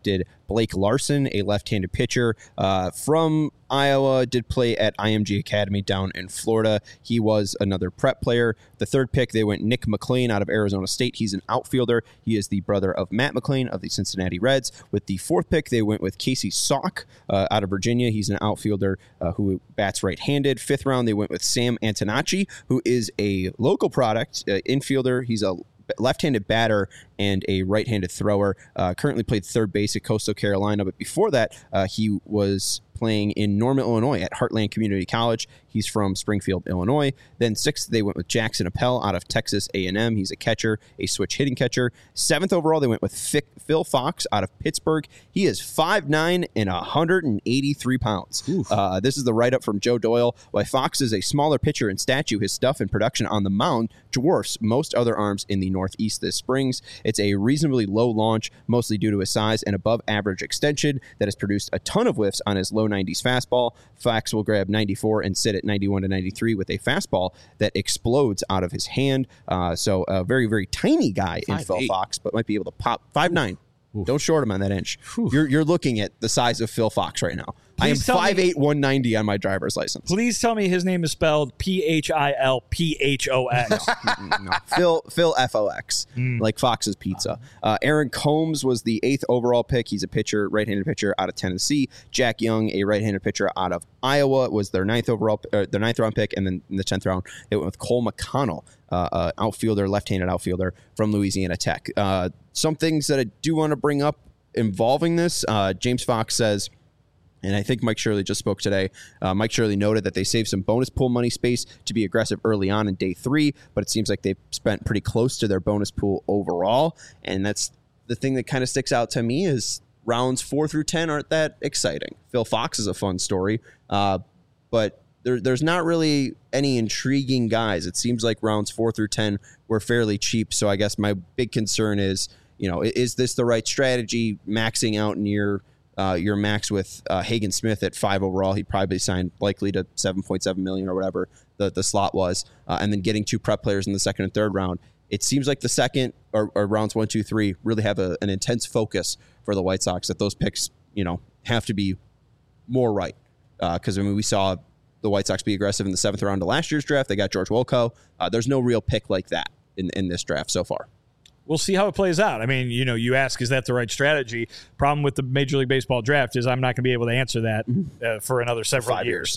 Blake Larson, a left-handed pitcher from Iowa, did play at IMG Academy down in Florida. He was another prep player. The third pick, they went Nick McLean out of Arizona State. He's an outfielder. He is the brother of Matt McLean of the Cincinnati Reds. With the fourth pick, they went with Casey Salk out of Virginia. He's an outfielder who bats right-handed. Fifth round, they went with Sam Antonacci, who is a local product infielder. He's a left-handed batter and a right-handed thrower. Currently played third base at Coastal Carolina, but before that, he was playing in Norman, Illinois at Heartland Community College. He's from Springfield, Illinois. Then sixth, they went with Jackson Appel out of Texas A&M. He's a catcher, a switch hitting catcher. Seventh overall, they went with Phil Fox out of Pittsburgh. He is 5'9" and 183 pounds. This is the write-up from Joe Doyle. While Fox is a smaller pitcher in stature, his stuff and production on the mound dwarfs most other arms in the Northeast this spring. It's a reasonably low launch, mostly due to his size and above-average extension that has produced a ton of whiffs on his low 90s fastball. Fox will grab 94 and sit at 91 to 93 with a fastball that explodes out of his hand. So a very, very tiny guy in Phil Fox, but might be able to pop 5'9". Don't short him on that inch. You're looking at the size of Phil Fox right now. Please, I am 5'8", 190 on my driver's license. Please tell me his name is spelled Philphox. No, Phil Fox, like Fox's Pizza. Aaron Combs was the 8th overall pick. He's a pitcher, right-handed pitcher out of Tennessee. Jack Young, a right-handed pitcher out of Iowa, was their 9th round pick, and then in the 10th round, they went with Cole McConnell, outfielder, left-handed outfielder from Louisiana Tech. Some things that I do want to bring up involving this, James Fox says, and I think Mike Shirley just spoke today. Mike Shirley noted that they saved some bonus pool money space to be aggressive early on in day 3, but it seems like they've spent pretty close to their bonus pool overall. And that's the thing that kind of sticks out to me is rounds 4 through 10 aren't that exciting. Phil Fox is a fun story, but there's not really any intriguing guys. It seems like rounds 4 through 10 were fairly cheap. So I guess my big concern is, is this the right strategy, maxing out near your max with Hagen Smith at 5 overall? He probably signed likely to $7.7 million or whatever the slot was, and then getting 2 prep players in the second and third round. It seems like the second or rounds 1, 2, 3 really have an intense focus for the White Sox, that those picks, have to be more right. Because we saw the White Sox be aggressive in the 7th round of last year's draft. They got George Wilco. There's no real pick like that in this draft so far. We'll see how it plays out. I mean, you ask, is that the right strategy? Problem with the Major League Baseball draft is I'm not going to be able to answer that for another several 5 years.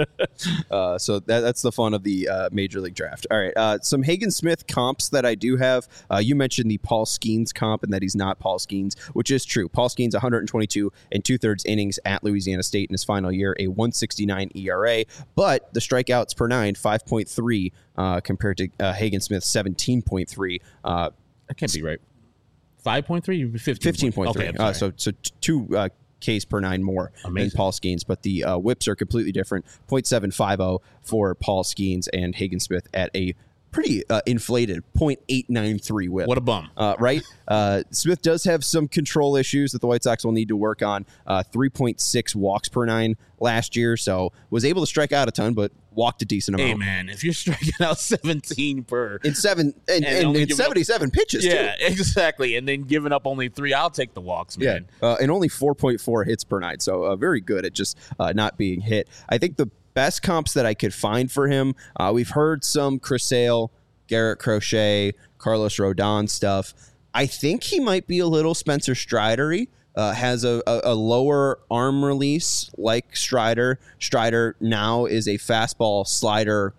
Yeah. So that's the fun of the Major League draft. All right. Some Hagen Smith comps that I do have. You mentioned the Paul Skeens comp and that he's not Paul Skeens, which is true. Paul Skeens, 122 and 2/3 innings at Louisiana State in his final year, a 1.69 ERA, but the strikeouts per 9, 5.3 compared to Hagen Smith's 17.3. That can't be right. 5.3? 15.3. Okay, so 2 Ks per 9 more than Paul Skeens, but the whips are completely different. 0.750 for Paul Skeens and Hagen Smith at a pretty inflated 0.893 whip. What a bum. Right? Smith does have some control issues that the White Sox will need to work on. 3.6 walks per 9 last year, so was able to strike out a ton, but walked a decent amount. Hey, man, if you're striking out 17 per... In 77 pitches, yeah, too. exactly. And then giving up only 3, I'll take the walks, man. Yeah, and only 4.4 hits per 9, so very good at just not being hit. I think the best comps that I could find for him, we've heard some Chris Sale, Garrett Crochet, Carlos Rodon stuff. I think he might be a little Spencer Strider-y. Has a lower arm release like Strider. Strider now is a fastball slider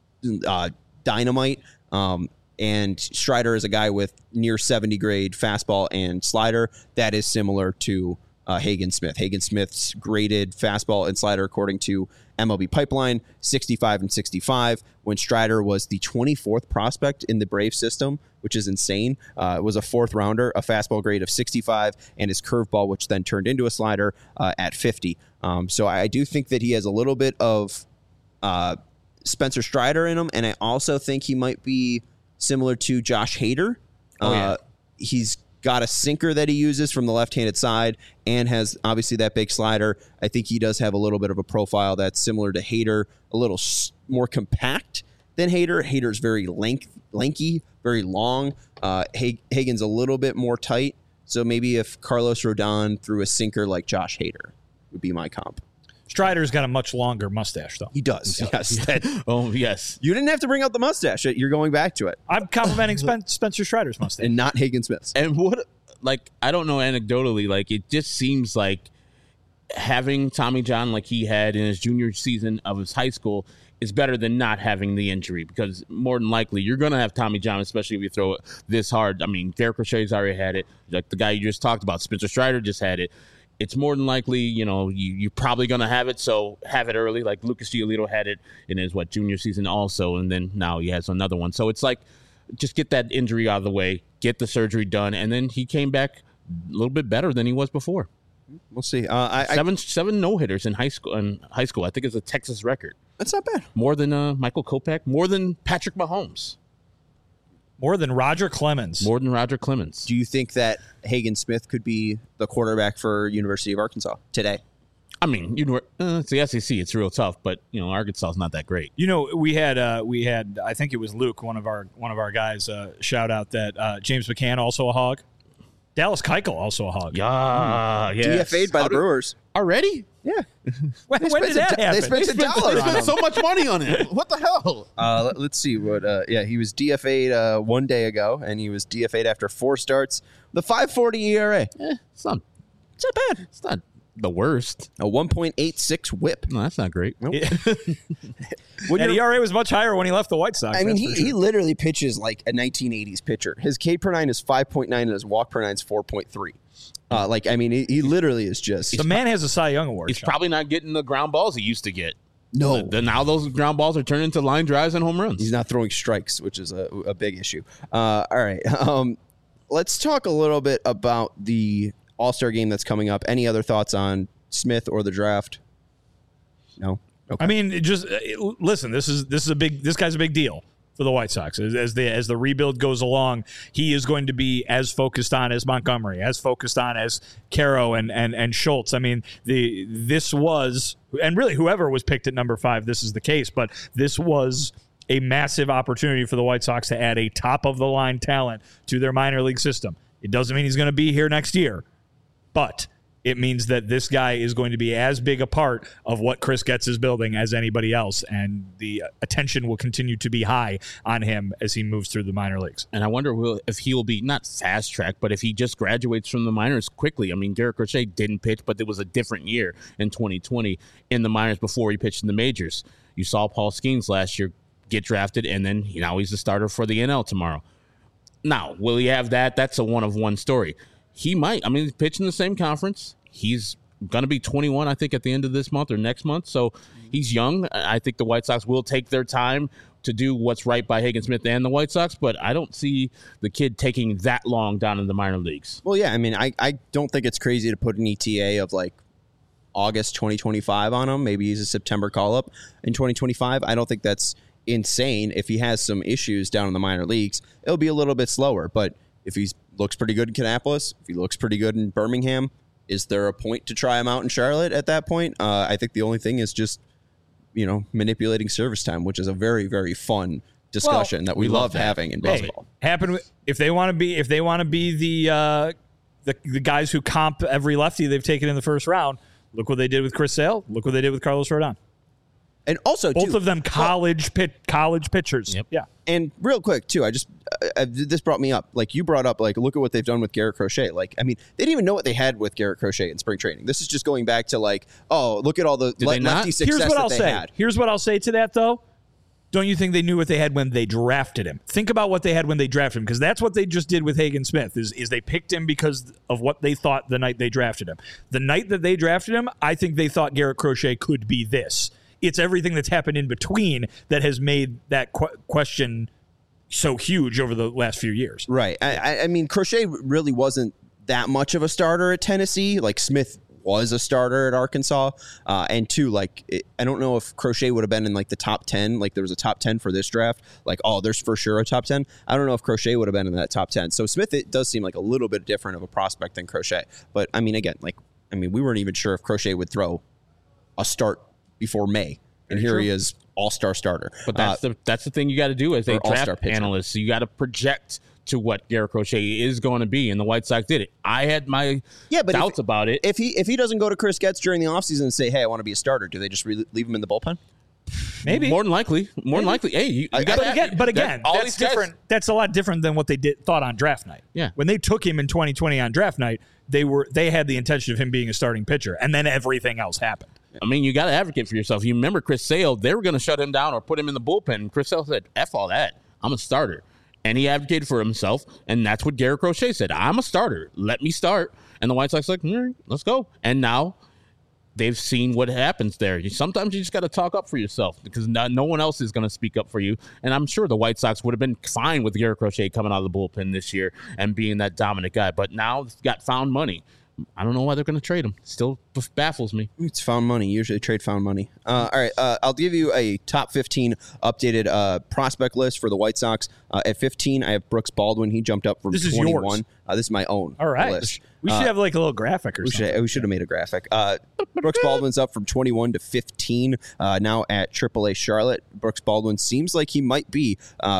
dynamite. And Strider is a guy with near 70 grade fastball and slider. That is similar to Hagen Smith. Hagen Smith's graded fastball and slider, according to MLB Pipeline, 65 and 65, when Strider was the 24th prospect in the Brave system, which is insane. It was a 4th rounder, a fastball grade of 65, and his curveball, which then turned into a slider, at 50. So I do think that he has a little bit of Spencer Strider in him, and I also think he might be similar to Josh Hader. He's got a sinker that he uses from the left-handed side and has obviously that big slider. I think he does have a little bit of a profile that's similar to Hader, a little more compact than Hader. Hader's very lanky, very long. Hagen's a little bit more tight. So maybe if Carlos Rodon threw a sinker like Josh Hader would be my comp. Strider's got a much longer mustache, though. He does. Yes. Oh, yes. You didn't have to bring out the mustache. You're going back to it. I'm complimenting Spencer Strider's mustache. And not Hagen Smith's. And what, like, I don't know anecdotally, like, it just seems like having Tommy John like he had in his junior season of his high school is better than not having the injury, because more than likely you're going to have Tommy John, especially if you throw it this hard. I mean, Garrett Crochet's already had it. Like the guy you just talked about, Spencer Strider just had it. It's more than likely, you're probably going to have it, so have it early. Like Lucas Giolito had it in his, junior season also, and then now he has another one. So it's like, just get that injury out of the way, get the surgery done, and then he came back a little bit better than he was before. We'll see. Seven no-hitters in high school. I think it's a Texas record. That's not bad. More than Michael Kopech, more than Patrick Mahomes. More than Roger Clemens. Do you think that Hagen Smith could be the quarterback for University of Arkansas today? I mean, it's the SEC. It's real tough, but Arkansas is not that great. We had I think it was Luke, one of our guys, shout out that James McCann also a hog. Dallas Keuchel also a hog. Yeah, DFA'd by the Brewers already. Yeah. When did that happen? They spent $1 They spent so much money on it. What the hell? Let's see what. He was DFA'd 1 day ago, and he was DFA'd after 4 starts. The 5.40 ERA. It's not bad. It's not the worst. A 1.86 WHIP. No, that's not great. Nope. And ERA was much higher when he left the White Sox. I mean, he literally pitches like a 1980s pitcher. His K per 9 is 5.9, and his walk per 9 is 4.3. He literally is just... The man has a Cy Young award. He's probably not getting the ground balls he used to get. No. Now those ground balls are turning into line drives and home runs. He's not throwing strikes, which is a big issue. All right. Let's talk a little bit about the All-Star game that's coming up. Any other thoughts on Smith or the draft? No? Okay. I mean, just listen, this guy's a big deal for the White Sox. As the rebuild goes along, he is going to be as focused on as Montgomery, as focused on as Caro and Schultz. I mean, this was, and really whoever was picked at number 5, this is the case, but this was a massive opportunity for the White Sox to add a top-of-the-line talent to their minor league system. It doesn't mean he's going to be here next year, but it means that this guy is going to be as big a part of what Chris Getz is building as anybody else, and the attention will continue to be high on him as he moves through the minor leagues. And I wonder if he will be not fast track, but if he just graduates from the minors quickly. I mean, Garrett Crochet didn't pitch, but it was a different year in 2020 in the minors before he pitched in the majors. You saw Paul Skeens last year get drafted, and then now he's the starter for the NL tomorrow. Now, will he have that? That's a one-of-one story. He might. I mean, he's pitching the same conference. He's going to be 21, I think, at the end of this month or next month. So he's young. I think the White Sox will take their time to do what's right by Hagen Smith and the White Sox, but I don't see the kid taking that long down in the minor leagues. Well, yeah, I mean, I don't think it's crazy to put an ETA of like August 2025 on him. Maybe he's a September call-up in 2025. I don't think that's insane. If he has some issues down in the minor leagues, it'll be a little bit slower. But if he looks pretty good in Kannapolis, if he looks pretty good in Birmingham, is there a point to try him out in Charlotte at that point? I think the only thing is just, manipulating service time, which is a very, very fun discussion that we love having in baseball. If they want to be the guys who comp every lefty they've taken in the first round, look what they did with Chris Sale. Look what they did with Carlos Rodon. And also, both of them college pitchers. Yep. Yeah. And real quick, too, this brought me up. Like, you brought up, like, look at what they've done with Garrett Crochet. Like, I mean, they didn't even know what they had with Garrett Crochet in spring training. This is just going back to, like, oh, look at all the lefty success that they had. Here's what I'll say to that, though. Don't you think they knew what they had when they drafted him? Think about what they had when they drafted him, because that's what they just did with Hagen Smith, is they picked him because of what they thought the night they drafted him. The night that they drafted him, I think they thought Garrett Crochet could be this. It's everything that's happened in between that has made that question so huge over the last few years. Right. I mean, Crochet really wasn't that much of a starter at Tennessee. Like, Smith was a starter at Arkansas. And two, like, I don't know if Crochet would have been in, like, the top 10. Like, there was a top 10 for this draft. Like, oh, there's for sure a top 10. I don't know if Crochet would have been in that top 10. So Smith, it does seem like a little bit different of a prospect than Crochet. But, I mean, again, we weren't even sure if Crochet would throw a start before May, and here he is, all-star starter. But that's the thing you got to do as a draft analyst. You got to project to what Garrett Crochet is going to be, and the White Sox did it. I had my doubts about it. If he doesn't go to Chris Getz during the offseason and say, hey, I want to be a starter, do they just leave him in the bullpen? Maybe. More than likely. Hey, you got but again, that's different. That's a lot different than what they thought on draft night. Yeah. When they took him in 2020 on draft night, they had the intention of him being a starting pitcher, and then everything else happened. I mean, you got to advocate for yourself. You remember Chris Sale, they were going to shut him down or put him in the bullpen. Chris Sale said, F all that. I'm a starter. And he advocated for himself, and that's what Garrett Crochet said. I'm a starter. Let me start. And the White Sox like, let's go. And now they've seen what happens there. Sometimes you just got to talk up for yourself because no one else is going to speak up for you. And I'm sure the White Sox would have been fine with Garrett Crochet coming out of the bullpen this year and being that dominant guy. But now it's got found money. I don't know why they're going to trade him. Still baffles me. It's found money. Usually trade found money. All right. I'll give you a top 15 updated prospect list for the White Sox. At 15, I have Brooks Baldwin. He jumped up from 21. This is yours. This is my own All right. list. We should have like a little graphic or something. We should have made a graphic. Brooks Baldwin's up from 21 to 15, now at AAA Charlotte. Brooks Baldwin seems like he might be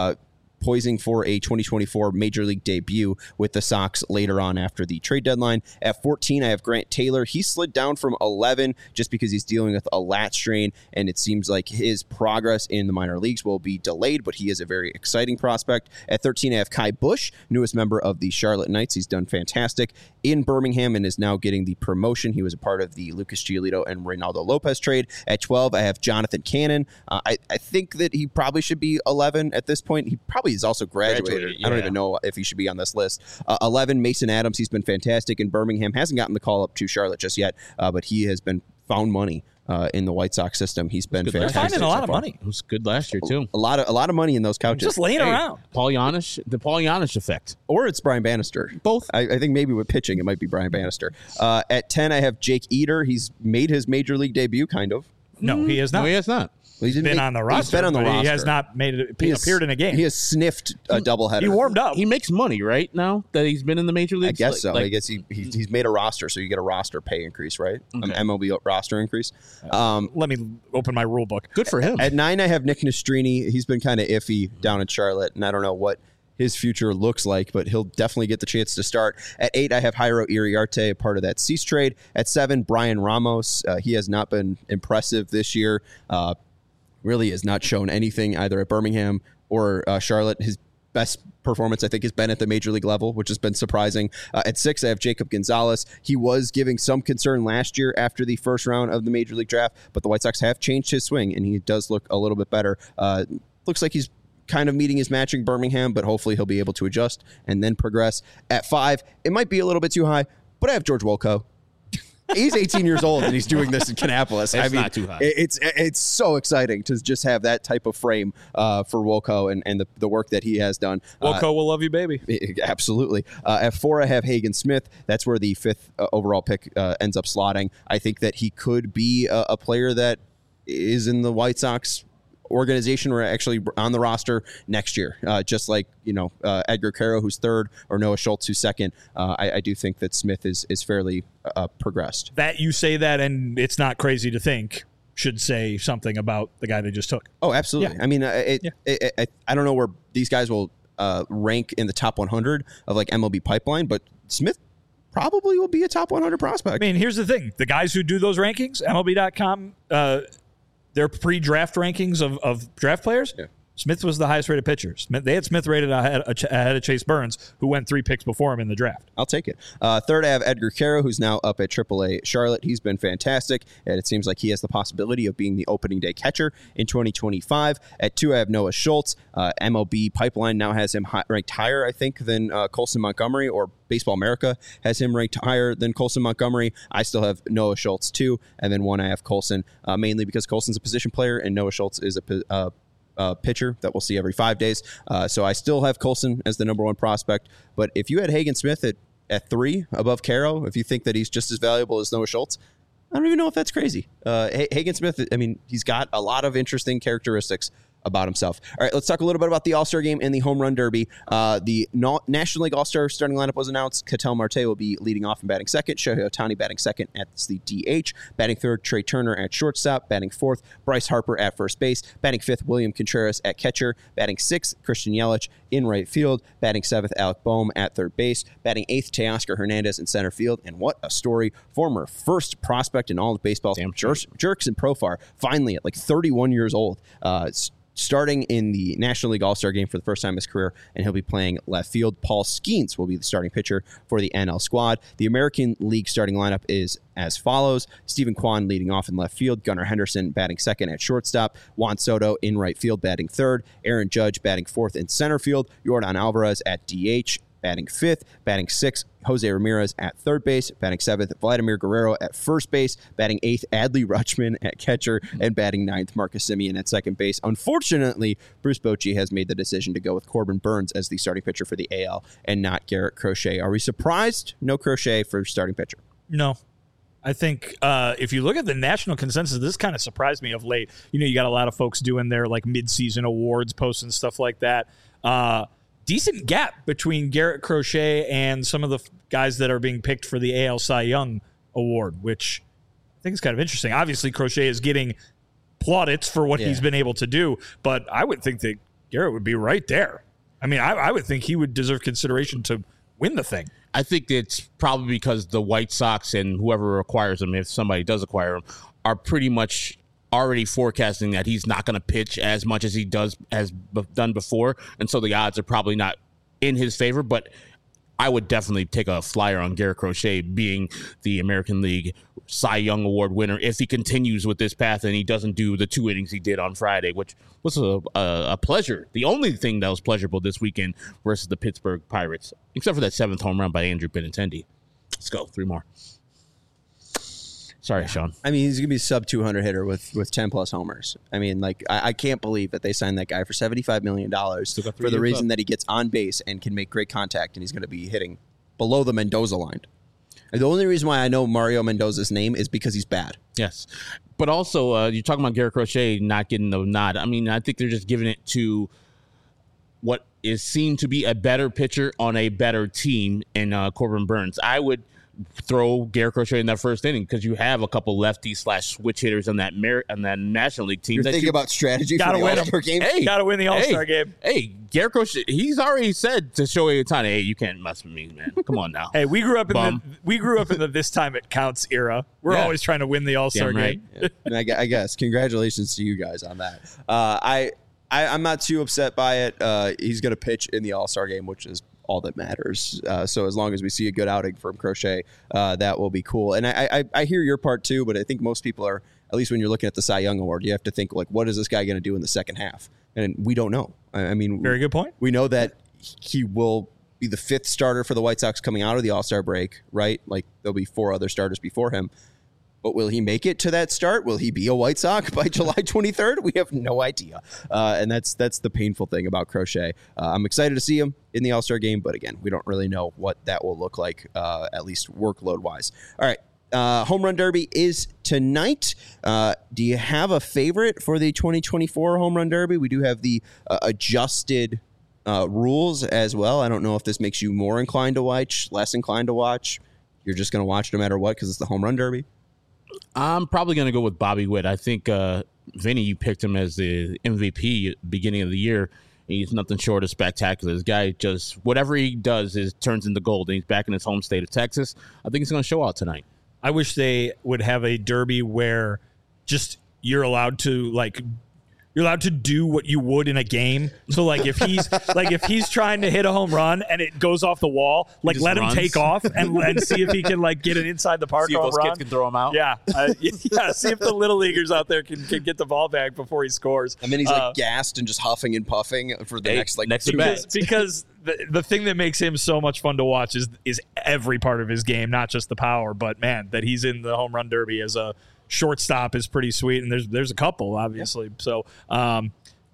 poising for a 2024 Major League debut with the Sox later on after the trade deadline. At 14, I have Grant Taylor. He slid down from 11 just because he's dealing with a lat strain, and it seems like his progress in the minor leagues will be delayed, but he is a very exciting prospect. At 13, I have Kai Busch, newest member of the Charlotte Knights. He's done fantastic in Birmingham and is now getting the promotion. He was a part of the Lucas Giolito and Reynaldo Lopez trade. At 12, I have Jonathan Cannon. I think that he probably should be 11 at this point. He probably is also graduated. I don't even know if he should be on this list. 11, Mason Adams. He's been fantastic in Birmingham. Hasn't gotten the call up to Charlotte just yet, but he has been found money in the White Sox system. He's been fantastic. They're finding a lot of money. It was good last year too. A lot of money in those couches. Just laying around. The Paul Giannis effect. Or it's Brian Bannister. Both. I think maybe with pitching, it might be Brian Bannister. At 10, I have Jake Eder. He's made his Major League debut, kind of. No, he has not. No, he has not. Well, He's been on the roster. He has not appeared in a game. He has sniffed a doubleheader. He warmed up. He makes money, right, now that he's been in the major leagues? I guess so. I guess he's made a roster, so you get a roster pay increase, right? Okay. MLB roster increase. Let me open my rule book. Good for him. At 9, I have Nick Nastrini. He's been kind of iffy down in Charlotte, and I don't know what his future looks like, but he'll definitely get the chance to start. At 8, I have Jairo Iriarte, a part of that Cease trade. At 7, Brian Ramos. He has not been impressive this year. Really has not shown anything either at Birmingham or Charlotte. His best performance, I think, has been at the major league level, which has been surprising. At 6, I have Jacob Gonzalez. He was giving some concern last year after the first round of the major league draft, but the White Sox have changed his swing, and he does look a little bit better. Looks like he's kind of meeting his matching Birmingham, but hopefully he'll be able to adjust and then progress. At 5, it might be a little bit too high, but I have George Wolko. He's 18 years old and he's doing this in Kannapolis. It's not too high. It's so exciting to just have that type of frame for Wolko and the work that he has done. Wolko will love you, baby. Absolutely. At 4, I have Hagen Smith. That's where the 5th overall pick ends up slotting. I think that he could be a player that is in the White Sox organization or actually on the roster next year, just like Edgar Caro, who's 3rd, or Noah Schultz, who's 2nd. I do think that Smith is fairly progressed. That you say that, and it's not crazy to think should say something about the guy they just took. Oh, absolutely. Yeah. I mean, I don't know where these guys will rank in the top 100 of like MLB Pipeline, but Smith probably will be a top 100 prospect. I mean, here's the thing: the guys who do those rankings, MLB.com. Their pre-draft rankings of draft players, Smith was the highest-rated pitcher. They had Smith rated ahead of Chase Burns, who went 3 picks before him in the draft. I'll take it. 3rd, I have Edgar Caro, who's now up at AAA Charlotte. He's been fantastic, and it seems like he has the possibility of being the opening day catcher in 2025. At 2, I have Noah Schultz. MLB Pipeline now has him ranked higher, I think, than Colson Montgomery, or Baseball America has him ranked higher than Colson Montgomery. I still have Noah Schultz, 2, and then 1, I have Colson, mainly because Colson's a position player, and Noah Schultz is a pitcher that we'll see every 5 days. So I still have Colson as the number 1 prospect. But if you had Hagen Smith at 3 above Caro, if you think that he's just as valuable as Noah Schultz, I don't even know if that's crazy. Hagen Smith, I mean, he's got a lot of interesting characteristics. about himself. All right, let's talk a little bit about the All-Star Game and the Home Run Derby. The National League All-Star starting lineup was announced. Ketel Marte will be leading off and batting second. Shohei Ohtani batting second at the DH. Batting third, Trey Turner at shortstop. Batting fourth, Bryce Harper at first base. Batting fifth, William Contreras at catcher. Batting sixth, Christian Yelich in right field. Batting seventh, Alec Boehm at third base. Batting eighth, Teoscar Hernandez in center field. And what a story. Former first prospect in all of baseball. Jurickson Profar, finally at like 31 years old, starting in the National League All-Star Game for the first time in his career, and he'll be playing left field. Paul Skeens will be the starting pitcher for the NL squad. The American League starting lineup is as follows. Stephen Kwan leading off in left field. Gunnar Henderson batting second at shortstop. Juan Soto in right field batting third. Aaron Judge batting fourth in center field. Yordan Alvarez at DH batting fifth. Batting sixth, Jose Ramirez at third base. Batting seventh, Vladimir Guerrero at first base. Batting eighth, Adley Rutschman at catcher. And batting ninth, Marcus Semien at second base. Unfortunately, Bruce Bochy has made the decision to go with Corbin Burns as the starting pitcher for the AL and not Garrett Crochet. Are we surprised? No Crochet for starting pitcher. No. I think if you look at the national consensus, this kind of surprised me of late. You got a lot of folks doing their like mid-season awards, posting stuff like that. Decent gap between Garrett Crochet and some of the guys that are being picked for the AL Cy Young Award, which I think is kind of interesting. Obviously, Crochet is getting plaudits for what he's been able to do, but I would think that Garrett would be right there. I mean, I would think he would deserve consideration to win the thing. I think it's probably because the White Sox and whoever acquires him, if somebody does acquire him, are pretty much already forecasting that he's not going to pitch as much as he has done before, and so the odds are probably not in his favor. But I would definitely take a flyer on Garrett Crochet being the American League Cy Young Award winner if he continues with this path and he doesn't do the 2 innings he did on Friday, which was a pleasure. The only thing that was pleasurable this weekend versus the Pittsburgh Pirates, except for that 7th home run by Andrew Benintendi. Let's go, 3 more. Sorry, Sean. I mean, he's going to be a sub-200 hitter with 10-plus homers. I mean, like, I can't believe that they signed that guy for $75 million for the reason that he gets on base and can make great contact, and he's going to be hitting below the Mendoza line. And the only reason why I know Mario Mendoza's name is because he's bad. Yes. But also, you're talking about Garrett Crochet not getting the nod. I mean, I think they're just giving it to what is seen to be a better pitcher on a better team in Corbin Burns. I would throw Garrett Crochet in that first inning because you have a couple lefty/switch hitters on that National League team. You're thinking about strategy for the All-Star game? Hey, gotta win the All-Star game. Hey, Garrett Crochet, he's already said to Shohei Ohtani, hey, you can't mess with me, man. Come on now. Hey, we grew up in the this time it counts era. We're always trying to win the All-Star game. I guess. Congratulations to you guys on that. I'm not too upset by it. He's going to pitch in the All-Star game, which is all that matters. So as long as we see a good outing from Crochet, that will be cool. And I hear your part too, but I think most people are, at least when you're looking at the Cy Young Award, you have to think, like, what is this guy going to do in the second half? And we don't know. I mean, very good point. We know that he will be the 5th starter for the White Sox coming out of the All-Star break, right? Like, there'll be 4 other starters before him. But will he make it to that start? Will he be a White Sox by July 23rd? We have no idea. And that's the painful thing about Crochet. I'm excited to see him in the All-Star game, but again, we don't really know what that will look like, at least workload-wise. All right. Home Run Derby is tonight. Do you have a favorite for the 2024 Home Run Derby? We do have the adjusted rules as well. I don't know if this makes you more inclined to watch, less inclined to watch. You're just going to watch no matter what because it's the Home Run Derby. I'm probably going to go with Bobby Witt. I think, Vinny, you picked him as the MVP at the beginning of the year. He's nothing short of spectacular. This guy just, whatever he does turns into gold, and he's back in his home state of Texas. I think he's going to show out tonight. I wish they would have a derby where just you're allowed to, like, you're allowed to do what you would in a game. So, like, if he's trying to hit a home run and it goes off the wall, like, let him take off and see if he can, like, get it inside the park. See if those kids can throw him out. Yeah, see if the little leaguers out there can get the ball back before he scores. And then he's like gassed and just huffing and puffing for the next 2 minutes. Because the thing that makes him so much fun to watch is every part of his game, not just the power, but man, that he's in the Home Run Derby as a shortstop is pretty sweet, and there's a couple obviously. So going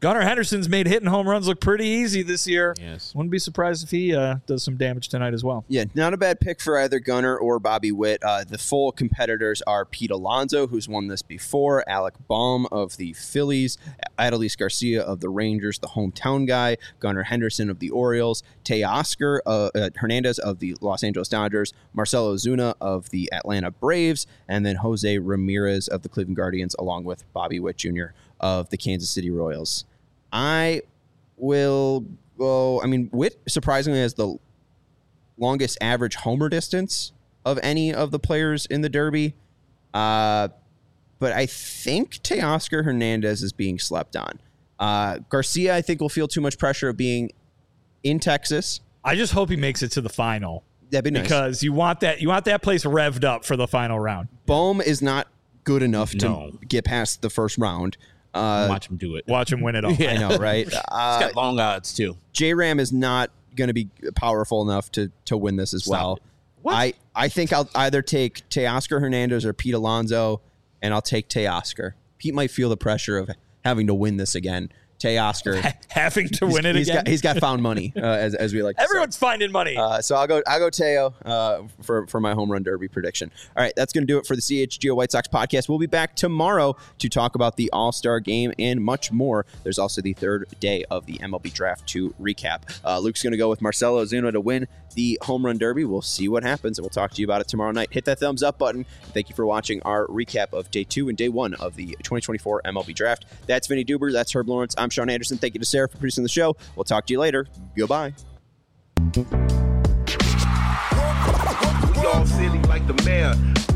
Gunnar Henderson's made hitting home runs look pretty easy this year. Yes. Wouldn't be surprised if he does some damage tonight as well. Yeah, not a bad pick for either Gunnar or Bobby Witt. The full competitors are Pete Alonso, who's won this before, Alec Bohm of the Phillies, Adolis Garcia of the Rangers, the hometown guy, Gunnar Henderson of the Orioles, Teoscar Hernandez of the Los Angeles Dodgers, Marcell Ozuna of the Atlanta Braves, and then Jose Ramirez of the Cleveland Guardians, along with Bobby Witt Jr. of the Kansas City Royals. I will go. I mean, Witt surprisingly has the longest average homer distance of any of the players in the Derby. But I think Teoscar Hernandez is being slept on. Garcia, I think, will feel too much pressure of being in Texas. I just hope he makes it to the final. That'd be nice. Because you want that place revved up for the final round. Bohm is not good enough to get past the first round. Watch him do it. Watch him win it all. Yeah. I know, right? He's got long odds, too. J-Ram is not going to be powerful enough to win this as well. What? I think I'll either take Teoscar Hernandez or Pete Alonso, and I'll take Teoscar. Pete might feel the pressure of having to win this again. Teoscar having to win it again. He's got found money, as we like to Everyone's finding money. So I'll go Teo for my home run derby prediction. All right, that's going to do it for the CHGO White Sox podcast. We'll be back tomorrow to talk about the All-Star game and much more. There's also the third day of the MLB Draft to recap. Luke's going to go with Marcell Ozuna to win the home run derby. We'll see what happens, and we'll talk to you about it tomorrow night. Hit that thumbs up button. Thank you for watching our recap of Day 2 and Day 1 of the 2024 MLB Draft. That's Vinny Duber. That's Herb Lawrence. I'm Sean Anderson. Thank you to Sarah for producing the show. We'll talk to you later. Goodbye. We all silly like the mayor.